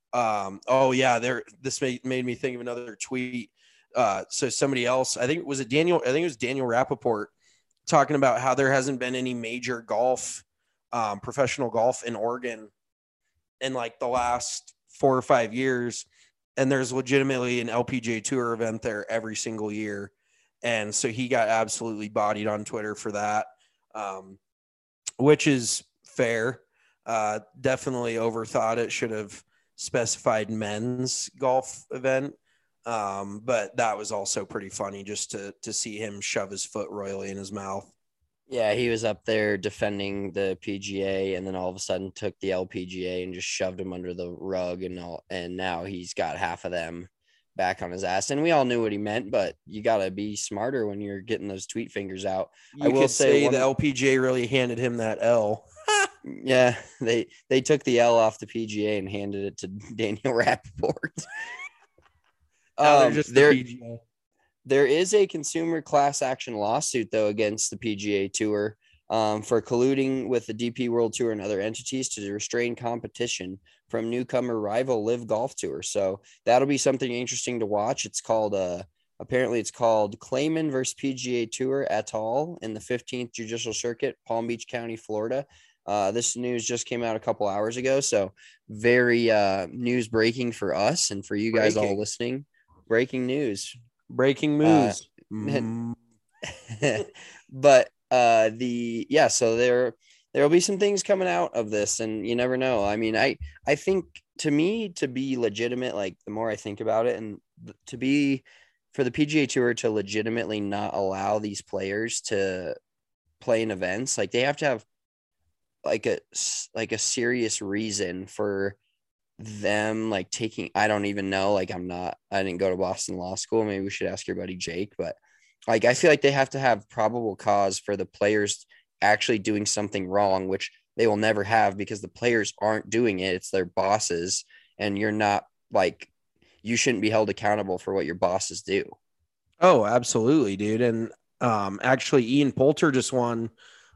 This made me think of another tweet. So somebody else, I think it was Daniel Rappaport, talking about how there hasn't been any major golf, professional golf in Oregon in like the last 4 or 5 years. And there's legitimately an LPGA Tour event there every single year. And so he got absolutely bodied on Twitter for that, which is fair. Definitely overthought it. Should have specified men's golf event. But that was also pretty funny just to see him shove his foot royally in his mouth. Yeah, he was up there defending the PGA, and then all of a sudden took the LPGA and just shoved him under the rug, and now he's got half of them back on his ass. And we all knew what he meant, but you got to be smarter when you're getting those tweet fingers out. I will say the LPGA really handed him that L. Yeah, they took the L off the PGA and handed it to Daniel Rappaport. There is a consumer class action lawsuit, though, against the PGA Tour for colluding with the DP World Tour and other entities to restrain competition from newcomer rival Live Golf Tour. So that'll be something interesting to watch. It's called apparently it's called Clayman versus PGA Tour et al. In the 15th Judicial Circuit, Palm Beach County, Florida. This news just came out a couple hours ago, so very news breaking for us and for you guys all listening. Breaking news. Breaking news. But so there'll be some things coming out of this, and you never know. I mean, I think, to me, to be legitimate, like the more I think about it, and to be for the PGA Tour to legitimately not allow these players to play in events, like they have to have like a serious reason for them like taking, I don't even know, like I didn't go to Boston Law School. Maybe we should ask your buddy Jake, but like I feel like they have to have probable cause for the players actually doing something wrong, which they will never have because the players aren't doing it. It's their bosses, and you're not, like, you shouldn't be held accountable for what your bosses do. Oh, absolutely, dude. And actually Ian Poulter just won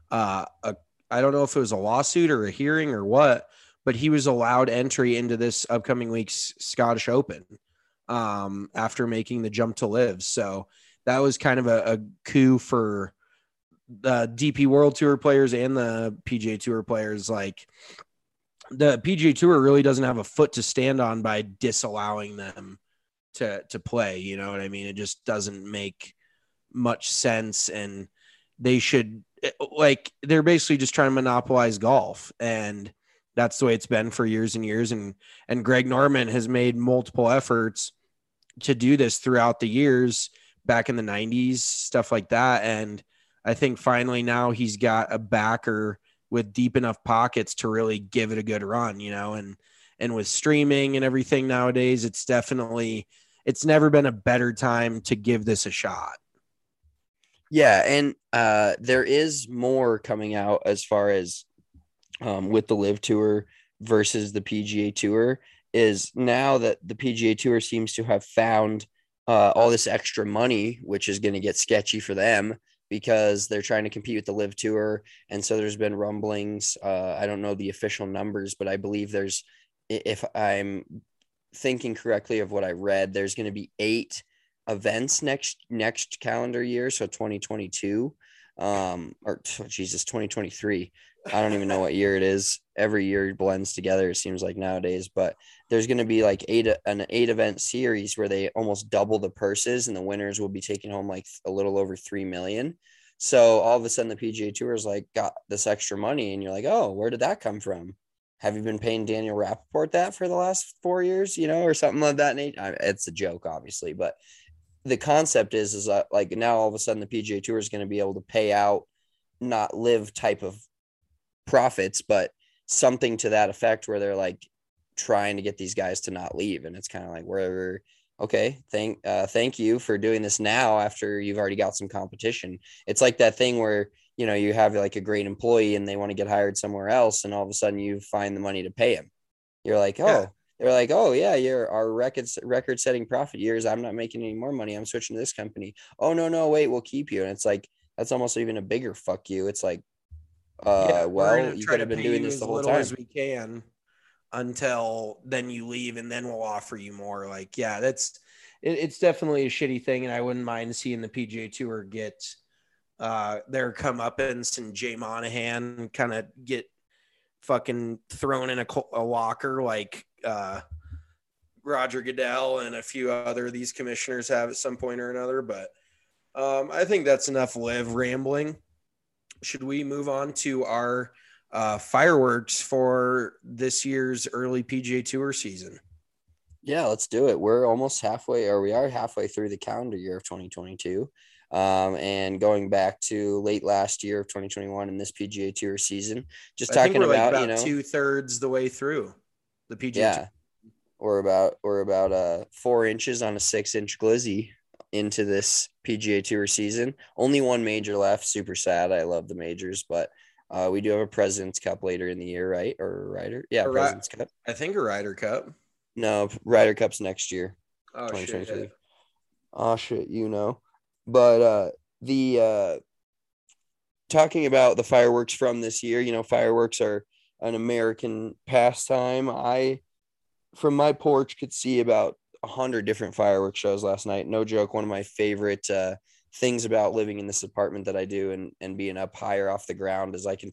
I don't know if it was a lawsuit or a hearing or what, but he was allowed entry into this upcoming week's Scottish Open after making the jump to Live. So that was kind of a coup for the DP World Tour players and the PGA Tour players. Like, the PGA Tour really doesn't have a foot to stand on by disallowing them to play. You know what I mean? It just doesn't make much sense. And they should, like, they're basically just trying to monopolize golf, and that's the way it's been for years and years. And Greg Norman has made multiple efforts to do this throughout the years, back in the 90s, stuff like that. And I think finally now he's got a backer with deep enough pockets to really give it a good run, you know, and with streaming and everything nowadays, it's never been a better time to give this a shot. Yeah. And there is more coming out as far as with the Live Tour versus the PGA Tour, is now that the PGA Tour seems to have found all this extra money, which is going to get sketchy for them because they're trying to compete with the Live Tour. And so there's been rumblings. I don't know the official numbers, but I believe there's, if I'm thinking correctly of what I read, there's going to be 8 events next calendar year. So 2022, 2023. I don't even know what year it is. Every year blends together, it seems like nowadays, but there's going to be like an 8 event series where they almost double the purses, and the winners will be taking home like a little over 3 million. So all of a sudden the PGA Tour is like got this extra money, and you're like, oh, where did that come from? Have you been paying Daniel Rappaport that for the last 4 years, you know, or something like that? It's a joke, obviously, but the concept is like now all of a sudden the PGA Tour is going to be able to pay out not Live type of profits, but something to that effect where they're like trying to get these guys to not leave. And it's kind of like, wherever, okay, thank you for doing this now after you've already got some competition. It's like that thing where, you know, you have like a great employee and they want to get hired somewhere else, and all of a sudden you find the money to pay him. You're like, oh, yeah. They're like, oh yeah, you're our record setting profit years. I'm not making any more money. I'm switching to this company. Oh no, wait, we'll keep you. And it's like, that's almost even a bigger fuck you. It's like, well, you could have been doing this the whole time. As we can until then you leave, and then we'll offer you more. Like, yeah, it's definitely a shitty thing, and I wouldn't mind seeing the PGA Tour get their comeuppance and Jay Monahan kind of get fucking thrown in a locker like Roger Goodell and a few other of these commissioners have at some point or another. But I think that's enough Live rambling. Should we move on to our fireworks for this year's early PGA Tour season. Yeah, let's do it. We're almost halfway, or we are halfway through the calendar year of 2022. And going back to late last year of 2021 in this PGA Tour season, just I think talking we're like about, 2/3 the way through the PGA yeah, Tour. we're about 4 inches on a 6-inch glizzy into this PGA Tour season. Only one major left. Super sad. I love the majors, but we do have a President's Cup later in the year, right? Or a Ryder? Yeah, President's Cup. I think a Ryder Cup. No, Ryder Cup's next year. Oh, 2023. shit. Oh shit, But the talking about the fireworks from this year, fireworks are an American pastime. I from my porch could see about 100 different fireworks shows last night. No joke. One of my favorite things about living in this apartment that I do and being up higher off the ground is I can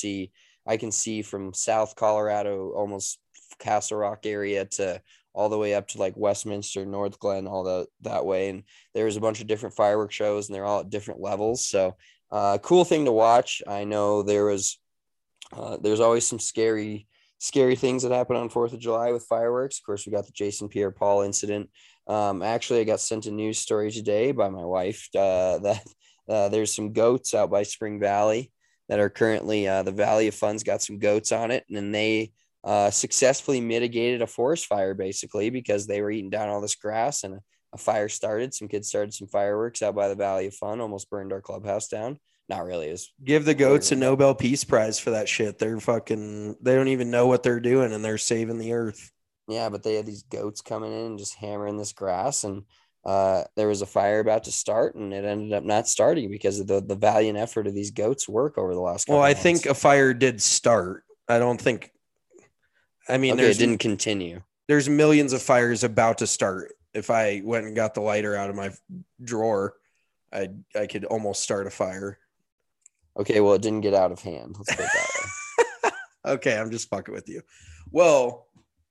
see from South Colorado, almost Castle Rock area, to all the way up to like Westminster, North Glen, all that way. And there's a bunch of different fireworks shows and they're all at different levels. So cool thing to watch. I know there's always some scary things that happen on 4th of July with fireworks. Of course, we got the Jason Pierre-Paul incident. Actually, I got sent a news story today by my wife that there's some goats out by Spring Valley that are currently the Valley of Fun's got some goats on it. And then they successfully mitigated a forest fire basically because they were eating down all this grass and a fire started. Some kids started some fireworks out by the Valley of Fun, almost burned our clubhouse down. Not really. Give the goats a Nobel Peace Prize for that shit. They don't even know what they're doing and they're saving the earth. Yeah, but they had these goats coming in and just hammering this grass, and there was a fire about to start, and it ended up not starting because of the valiant effort of these goats' work over the last couple months. Think a fire did start. I don't think. I mean, it didn't continue. There's millions of fires about to start. If I went and got the lighter out of my drawer, I could almost start a fire. Okay, well, it didn't get out of hand. Let's put it that way. Okay, I'm just fucking with you. Well,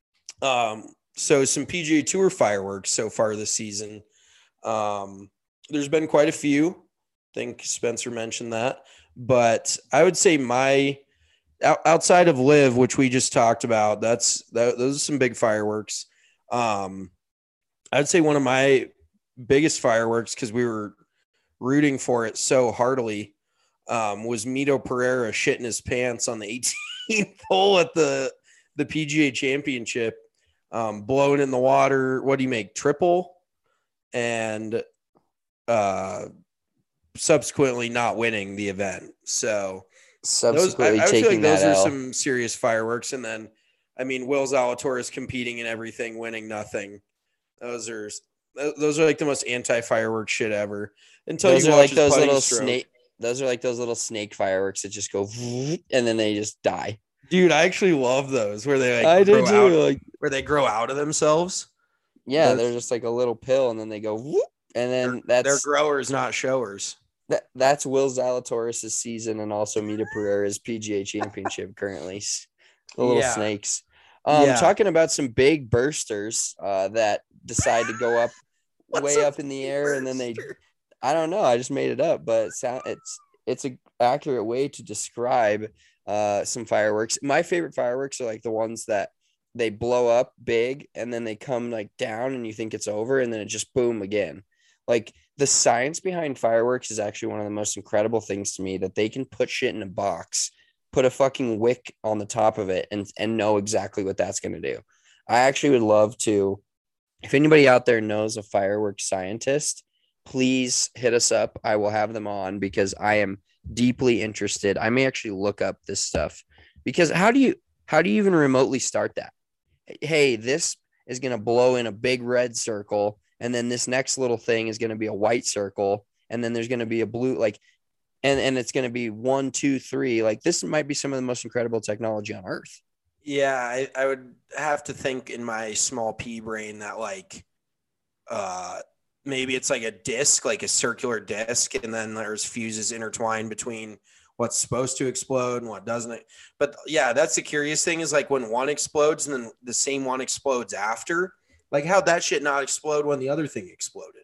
so some PGA Tour fireworks so far this season. There's been quite a few. I think Spencer mentioned that. But I would say outside of Live, which we just talked about, those are some big fireworks. I'd say one of my biggest fireworks, because we were rooting for it so heartily, was Mito Pereira shitting his pants on the 18th hole at the PGA Championship, blowing in the water. What do you make? Triple, and subsequently not winning the event. So subsequently I feel like those are L. some serious fireworks. And then, I mean, Will Zalatoris competing in everything, winning nothing. Those are like the most anti-fireworks shit ever. Until those you are watch like those little stroke. snake. Those are like those little snake fireworks that just go and then they just die. Dude, I actually love those where they where they grow out of themselves. Yeah, they're just like a little pill and then they go whoop, and then they're growers, not showers. That's Will Zalatoris' season and also Mito Pereira's PGA Championship currently. The little snakes. Talking about some big bursters that decide to go up way up in the air and then I don't know. I just made it up, but it's an accurate way to describe some fireworks. My favorite fireworks are like the ones that they blow up big and then they come like down and you think it's over and then it just boom again. Like the science behind fireworks is actually one of the most incredible things to me, that they can put shit in a box, put a fucking wick on the top of it and know exactly what that's going to do. I actually would love to, if anybody out there knows a fireworks scientist, please hit us up. I will have them on because I am deeply interested. I may actually look up this stuff because how do you even remotely start that? Hey, this is going to blow in a big red circle. And then this next little thing is going to be a white circle. And then there's going to be a blue, like, and it's going to be 1, 2, 3. Like this might be some of the most incredible technology on earth. Yeah. I would have to think in my small pea brain that like, maybe it's like a disc, like a circular disc, and then there's fuses intertwined between what's supposed to explode and what doesn't. But yeah, that's the curious thing is like when one explodes and then the same one explodes after, like how'd that shit not explode when the other thing exploded?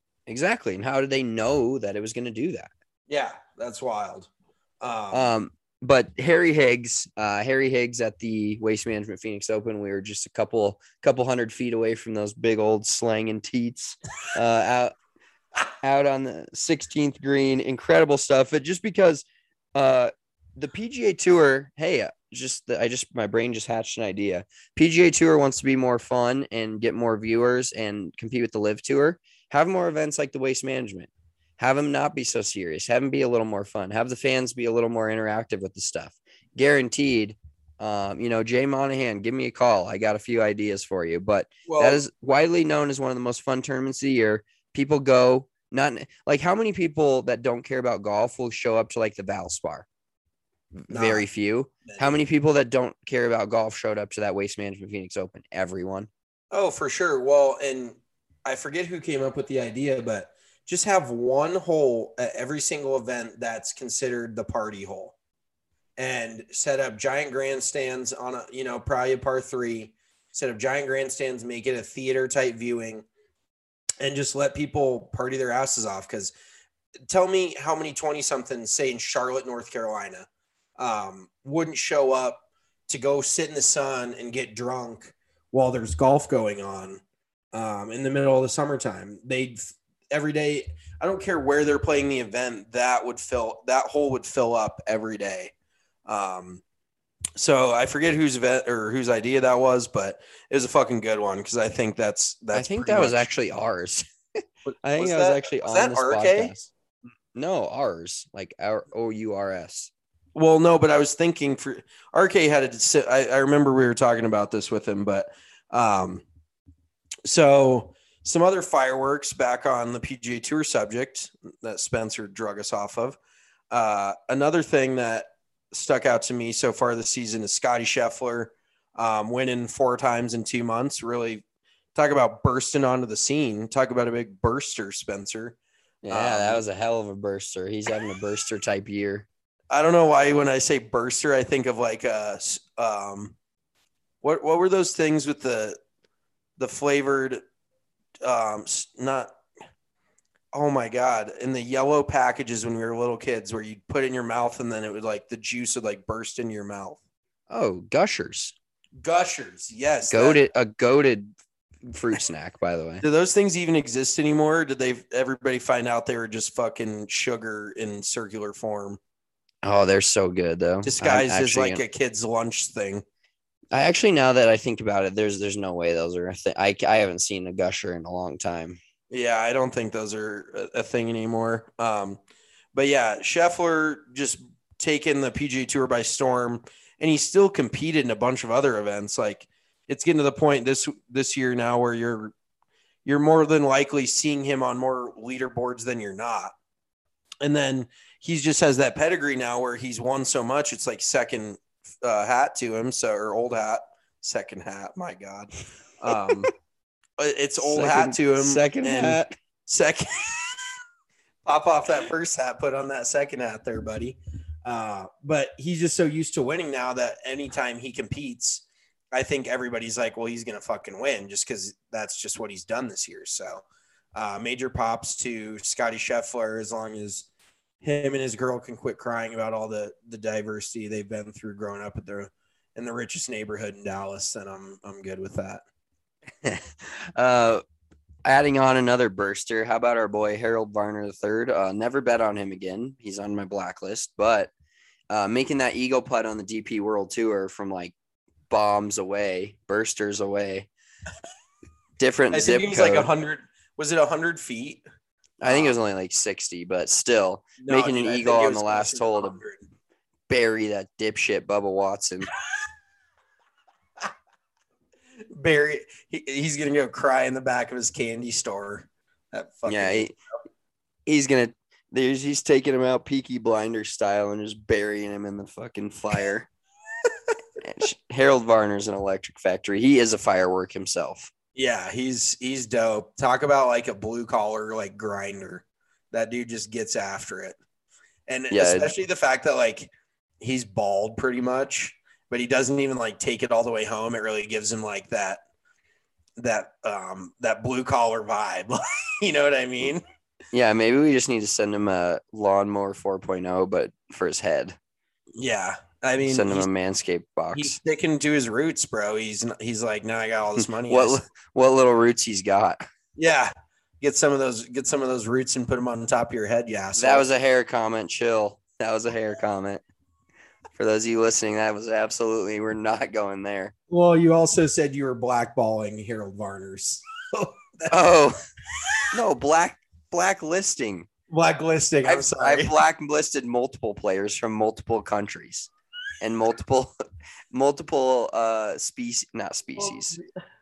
Exactly. And how did they know that it was going to do that? Yeah, that's wild. but Harry Higgs at the Waste Management Phoenix Open, we were just a couple 100 feet away from those big old slanging teats, out on the 16th green. Incredible stuff. But just because the PGA Tour, hey, my brain just hatched an idea. PGA Tour wants to be more fun and get more viewers and compete with the Live Tour. Have more events like the Waste Management. Have them not be so serious. Have them be a little more fun. Have the fans be a little more interactive with the stuff. Guaranteed. Jay Monahan, give me a call. I got a few ideas for you. But that is widely known as one of the most fun tournaments of the year. People go, not like how many people that don't care about golf will show up to like the Valspar? Very few. How many people that don't care about golf showed up to that Waste Management Phoenix Open? Everyone. Oh, for sure. Well, and I forget who came up with the idea, but just have one hole at every single event that's considered the party hole, and set up giant grandstands on probably a par 3, set up giant grandstands, make it a theater type viewing, and just let people party their asses off. Because tell me how many 20-somethings, say in Charlotte, North Carolina, wouldn't show up to go sit in the sun and get drunk while there's golf going on in the middle of the summertime. Every day, I don't care where they're playing the event, that hole would fill up every day. So I forget whose event or whose idea that was, but it was a fucking good one, because I think that's I think that was actually ours. I think that was actually on this RK? podcast. No, ours, like our OURS. Well, no, but I was thinking for RK had to. I remember we were talking about this with him, but so some other fireworks back on the PGA Tour subject that Spencer drug us off of. Another thing that stuck out to me so far this season is Scotty Scheffler winning 4 times in 2 months. Really talk about bursting onto the scene. Talk about a big burster, Spencer. Yeah, that was a hell of a burster. He's having a burster type year. I don't know why when I say burster, I think of like what were those things with the flavored not, oh my God, in the yellow packages when we were little kids where you'd put it in your mouth and then it would like the juice would like burst in your mouth. Oh, Gushers. Yes. A goated fruit snack, by the way. Do those things even exist anymore? Did everybody find out they were just fucking sugar in circular form? Oh, they're so good though. Disguised as like a kid's lunch thing. I actually, now that I think about it, there's no way those are a thing. I haven't seen a Gusher in a long time. Yeah, I don't think those are a thing anymore. But yeah, Scheffler just taken the PGA Tour by storm, and he still competed in a bunch of other events. Like, it's getting to the point this year now where you're more than likely seeing him on more leaderboards than you're not. And then he just has that pedigree now where he's won so much, it's like second hat to him. So, or old hat, second hat. My God. It's old hat to him. Second hat. Second. Pop off that first hat, put on that second hat there, buddy. But he's just so used to winning now that anytime he competes, I think everybody's like, well, he's going to fucking win just because that's just what he's done this year. So major props to Scotty Scheffler, as long as him and his girl can quit crying about all the diversity they've been through growing up in the richest neighborhood in Dallas, then I'm good with that. Adding on another burster, how about our boy Harold Varner III? Never bet on him again. He's on my blacklist, but making that eagle putt on the DP World Tour from like bombs away, bursters away, different I zip think it was code. like 100. Was it 100 feet? I think it was only like 60, but still making an eagle on the last hole to bury that dipshit Bubba Watson. Barry, he's gonna go cry in the back of his candy store. That fucking he's taking him out Peaky Blinders style and just burying him in the fucking fire. Harold Varner's an electric factory. He is a firework himself. Yeah, he's dope. Talk about like a blue collar like grinder. That dude just gets after it. And especially the fact that like he's bald pretty much, but he doesn't even like take it all the way home. It really gives him like that blue collar vibe. You know what I mean? Yeah, maybe we just need to send him a lawnmower 4.0, but for his head. Yeah. I mean, Send him a Manscaped box. he's sticking to his roots, bro. He's like, now I got all this money. What little roots he's got? Yeah. Get some of those roots and put them on top of your head. Yeah. So. That was a hair comment. Chill. That was a hair comment. For those of you listening, that was absolutely, we're not going there. Well, you also said you were blackballing Harold Varner's. Oh, no, blacklisting. Blacklisting. I'm sorry. I blacklisted multiple players from multiple countries and multiple species, not species.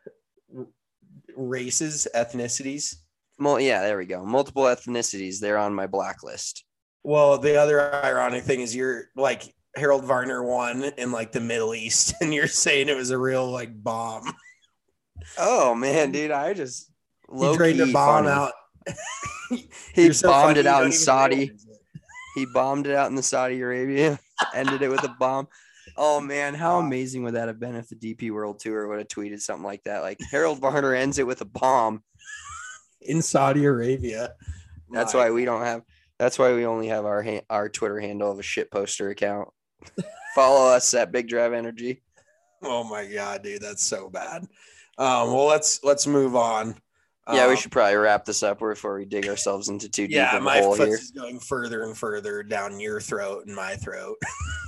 Races, ethnicities. Well, yeah, there we go. Multiple ethnicities. They're on my blacklist. Well, the other ironic thing is you're like Harold Varner won in like the Middle East, and you're saying it was a real like bomb. Oh man, dude, I just he drained a bomb funny. out. He bombed it out in Saudi. He bombed it out in the Saudi Arabia. Ended it with a bomb. Oh man, how amazing would that have been if the DP World Tour would have tweeted something like that? Like Harold Varner ends it with a bomb in Saudi Arabia. That's why we don't have. That's why we only have our Twitter handle of a shit poster account. Follow us at Big Drive Energy. Oh my god, dude, that's so bad. Well, let's move on. Yeah, we should probably wrap this up before we dig ourselves into too deep of a my hole foot here. is going further and further down your throat and my throat.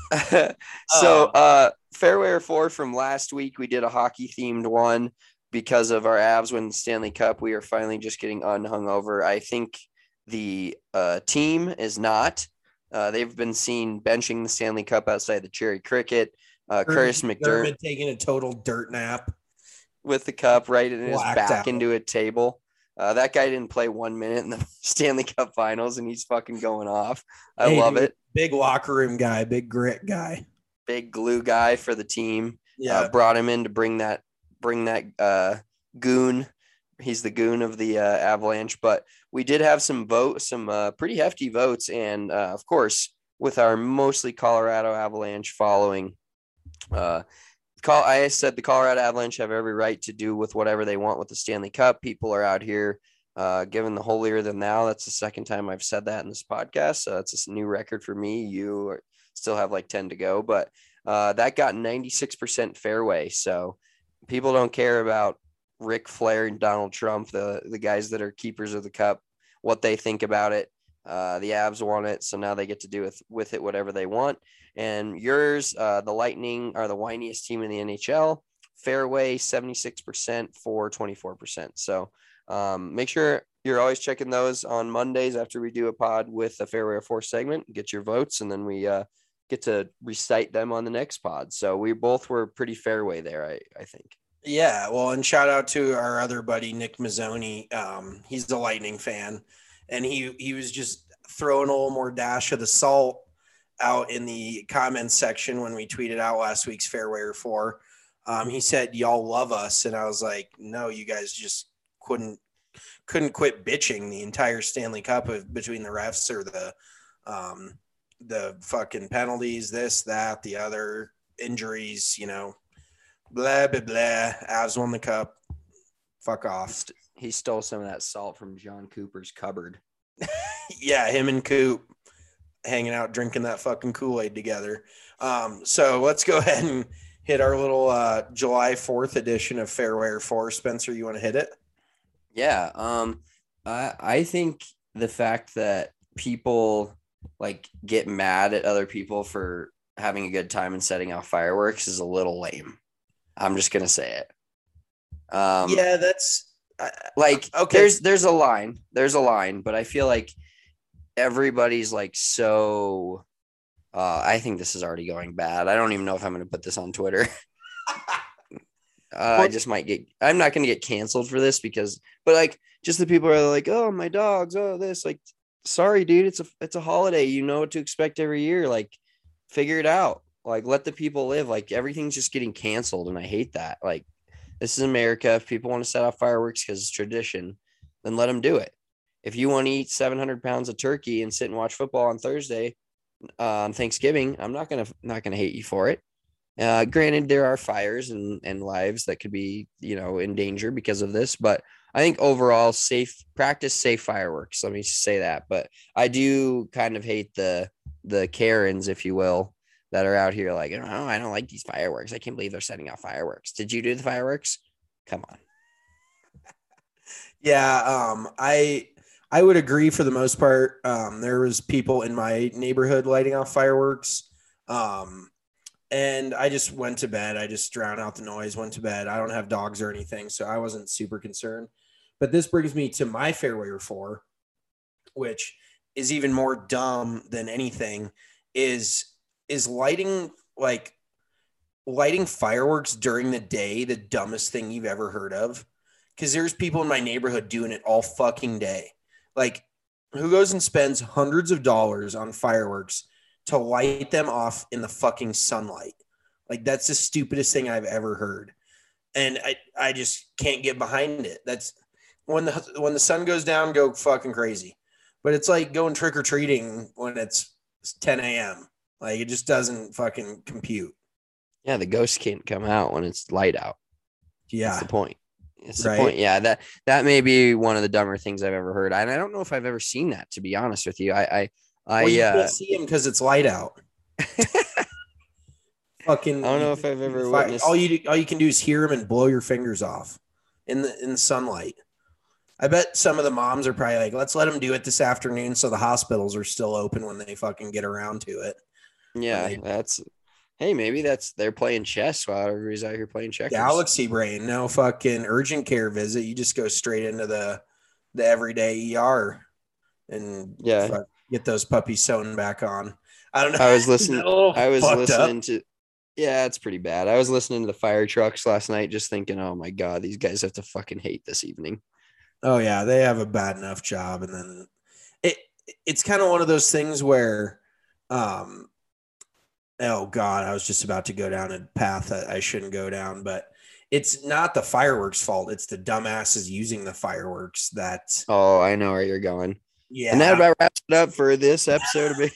So, Fairweather 4 from last week, we did a hockey themed one because of our Avs win the Stanley Cup. We are finally just getting unhung over. I think the team is not. They've been seen benching the Stanley Cup outside the Cherry Cricket. Curtis McDermott taking a total dirt nap with the cup right in his back out into a table. That guy didn't play 1 minute in the Stanley Cup Finals, and he's fucking going off. I love it. Big locker room guy, big grit guy, big glue guy for the team. Yeah, brought him in to bring that goon. He's the goon of the Avalanche. But we did have some pretty hefty votes, and of course, with our mostly Colorado Avalanche following, I said the Colorado Avalanche have every right to do with whatever they want with the Stanley Cup. People are out here giving the holier than thou. That's the second time I've said that in this podcast. So that's a new record for me. You still have like 10 to go, but that got 96% fairway. So people don't care about Ric Flair and Donald Trump, the guys that are keepers of the cup, what they think about it. The Avs want it, so now they get to do with it whatever they want. And yours, the Lightning are the whiniest team in the NHL. Fairway 76% for 24%. So make sure you're always checking those on Mondays after we do a pod with a Fairway 4 segment. Get your votes, and then we get to recite them on the next pod. So we both were pretty fairway there, I think. Yeah, well, and shout out to our other buddy Nick Mazzoni. He's a Lightning fan, and he was just throwing a little more dash of the salt out in the comments section when we tweeted out last week's Fairway 4. He said, "Y'all love us," and I was like, "No, you guys just couldn't quit bitching the entire Stanley Cup between the refs or the fucking penalties, this, that, the other, injuries, blah, blah, blah. Avs won the cup. Fuck off." He stole some of that salt from John Cooper's cupboard. Yeah, him and Coop hanging out, drinking that fucking Kool-Aid together. So let's go ahead and hit our little July 4th edition of Fairway 4. Spencer, you want to hit it? Yeah. I think the fact that people get mad at other people for having a good time and setting off fireworks is a little lame. I'm just going to say it. Yeah, that's okay. There's a line, but I feel like everybody's so, I think this is already going bad. I don't even know if I'm going to put this on Twitter. I just might I'm not going to get canceled for this but just the people are like, "Oh, my dogs. Oh, this." Sorry, dude. It's a holiday. You know what to expect every year. Figure it out. Let the people live. Everything's just getting canceled. And I hate that. This is America. If people want to set off fireworks because it's tradition, then let them do it. If you want to eat 700 pounds of turkey and sit and watch football on Thursday on Thanksgiving, I'm not gonna hate you for it. Granted, there are fires and lives that could be in danger because of this, but I think overall, practice safe fireworks. Let me say that. But I do kind of hate the Karens, if you will, that are out here like, oh, I don't like these fireworks. I can't believe they're setting off fireworks. Did you do the fireworks? Come on. Yeah, I would agree for the most part. There was people in my neighborhood lighting off fireworks. And I just went to bed. I just drowned out the noise, went to bed. I don't have dogs or anything, so I wasn't super concerned. But this brings me to my fairway or four, which is even more dumb than anything, is lighting fireworks during the day the dumbest thing you've ever heard of? Because there's people in my neighborhood doing it all fucking day. Like, who goes and spends hundreds of dollars on fireworks to light them off in the fucking sunlight? Like, that's the stupidest thing I've ever heard. And I just can't get behind it. That's when the sun goes down, go fucking crazy. But it's like going trick-or-treating when it's 10 a.m. Like, it just doesn't fucking compute. Yeah, the ghosts can't come out when it's light out. Yeah. That's the point. It's the point. Yeah, that may be one of the dumber things I've ever heard. And I don't know if I've ever seen that, to be honest with you. Well, you can't see him because it's light out. Fucking. I don't know if I've ever witnessed. All you can do is hear him and blow your fingers off in the sunlight. I bet some of the moms are probably like, let's let them do it this afternoon so the hospitals are still open when they fucking get around to it. Yeah, maybe they're playing chess while everybody's out here playing checkers. Galaxy brain, no fucking urgent care visit. You just go straight into the everyday ER and get those puppies sewn back on. I don't know. I was listening. Yeah, it's pretty bad. I was listening to the fire trucks last night, just thinking, oh my God, these guys have to fucking hate this evening. Oh yeah, they have a bad enough job, and then it's kind of one of those things where, oh God, I was just about to go down a path that I shouldn't go down, but it's not the fireworks' fault. It's the dumbasses using the fireworks that. Oh, I know where you're going. Yeah, and that about wraps it up for this episode of it.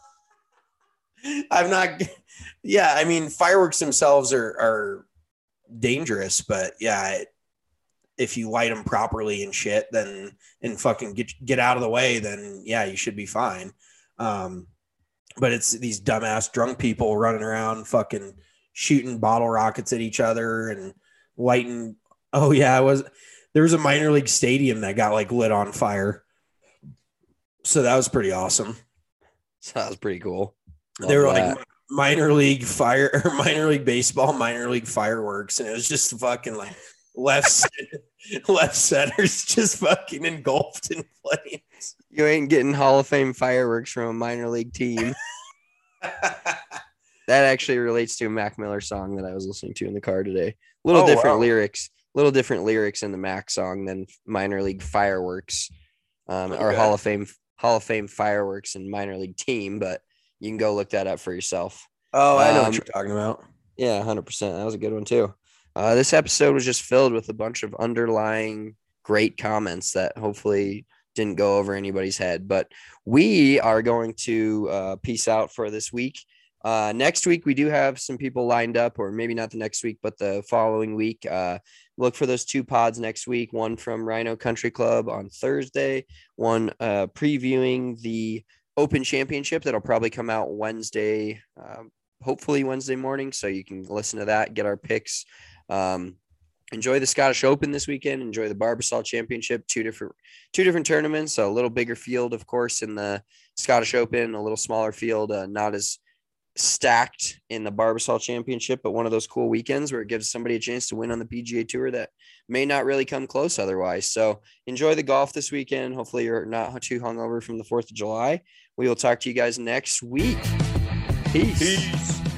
I'm not. Yeah, I mean, fireworks themselves are dangerous, but yeah. If you light them properly and shit, then and fucking get out of the way, then yeah, you should be fine. But it's these dumbass drunk people running around fucking shooting bottle rockets at each other and lighting. Oh yeah, there was a minor league stadium that got like lit on fire. So that was pretty awesome. That was pretty cool. They were like minor league baseball, minor league fireworks, and it was just fucking like left center's just fucking engulfed in flames. You ain't getting Hall of Fame fireworks from a minor league team. That actually relates to a Mac Miller song that I was listening to in the car today. Little different lyrics in the Mac song than minor league fireworks, or Hall of Fame fireworks and minor league team. But you can go look that up for yourself. Oh, I know what you're talking about. Yeah, 100%. That was a good one too. This episode was just filled with a bunch of underlying great comments that hopefully didn't go over anybody's head. But we are going to peace out for this week. Next week, we do have some people lined up, or maybe not the next week, but the following week. Look for those 2 pods next week, one from Rhino Country Club on Thursday, one previewing the Open Championship that'll probably come out Wednesday, hopefully Wednesday morning. So you can listen to that, get our picks. Enjoy the Scottish Open this weekend. Enjoy the Barbasol Championship. Two different tournaments. A little bigger field, of course, in the Scottish Open. A little smaller field, not as stacked in the Barbasol Championship, but one of those cool weekends where it gives somebody a chance to win on the PGA Tour that may not really come close otherwise. So enjoy the golf this weekend. Hopefully you're not too hungover from the 4th of July. We will talk to you guys next week. Peace.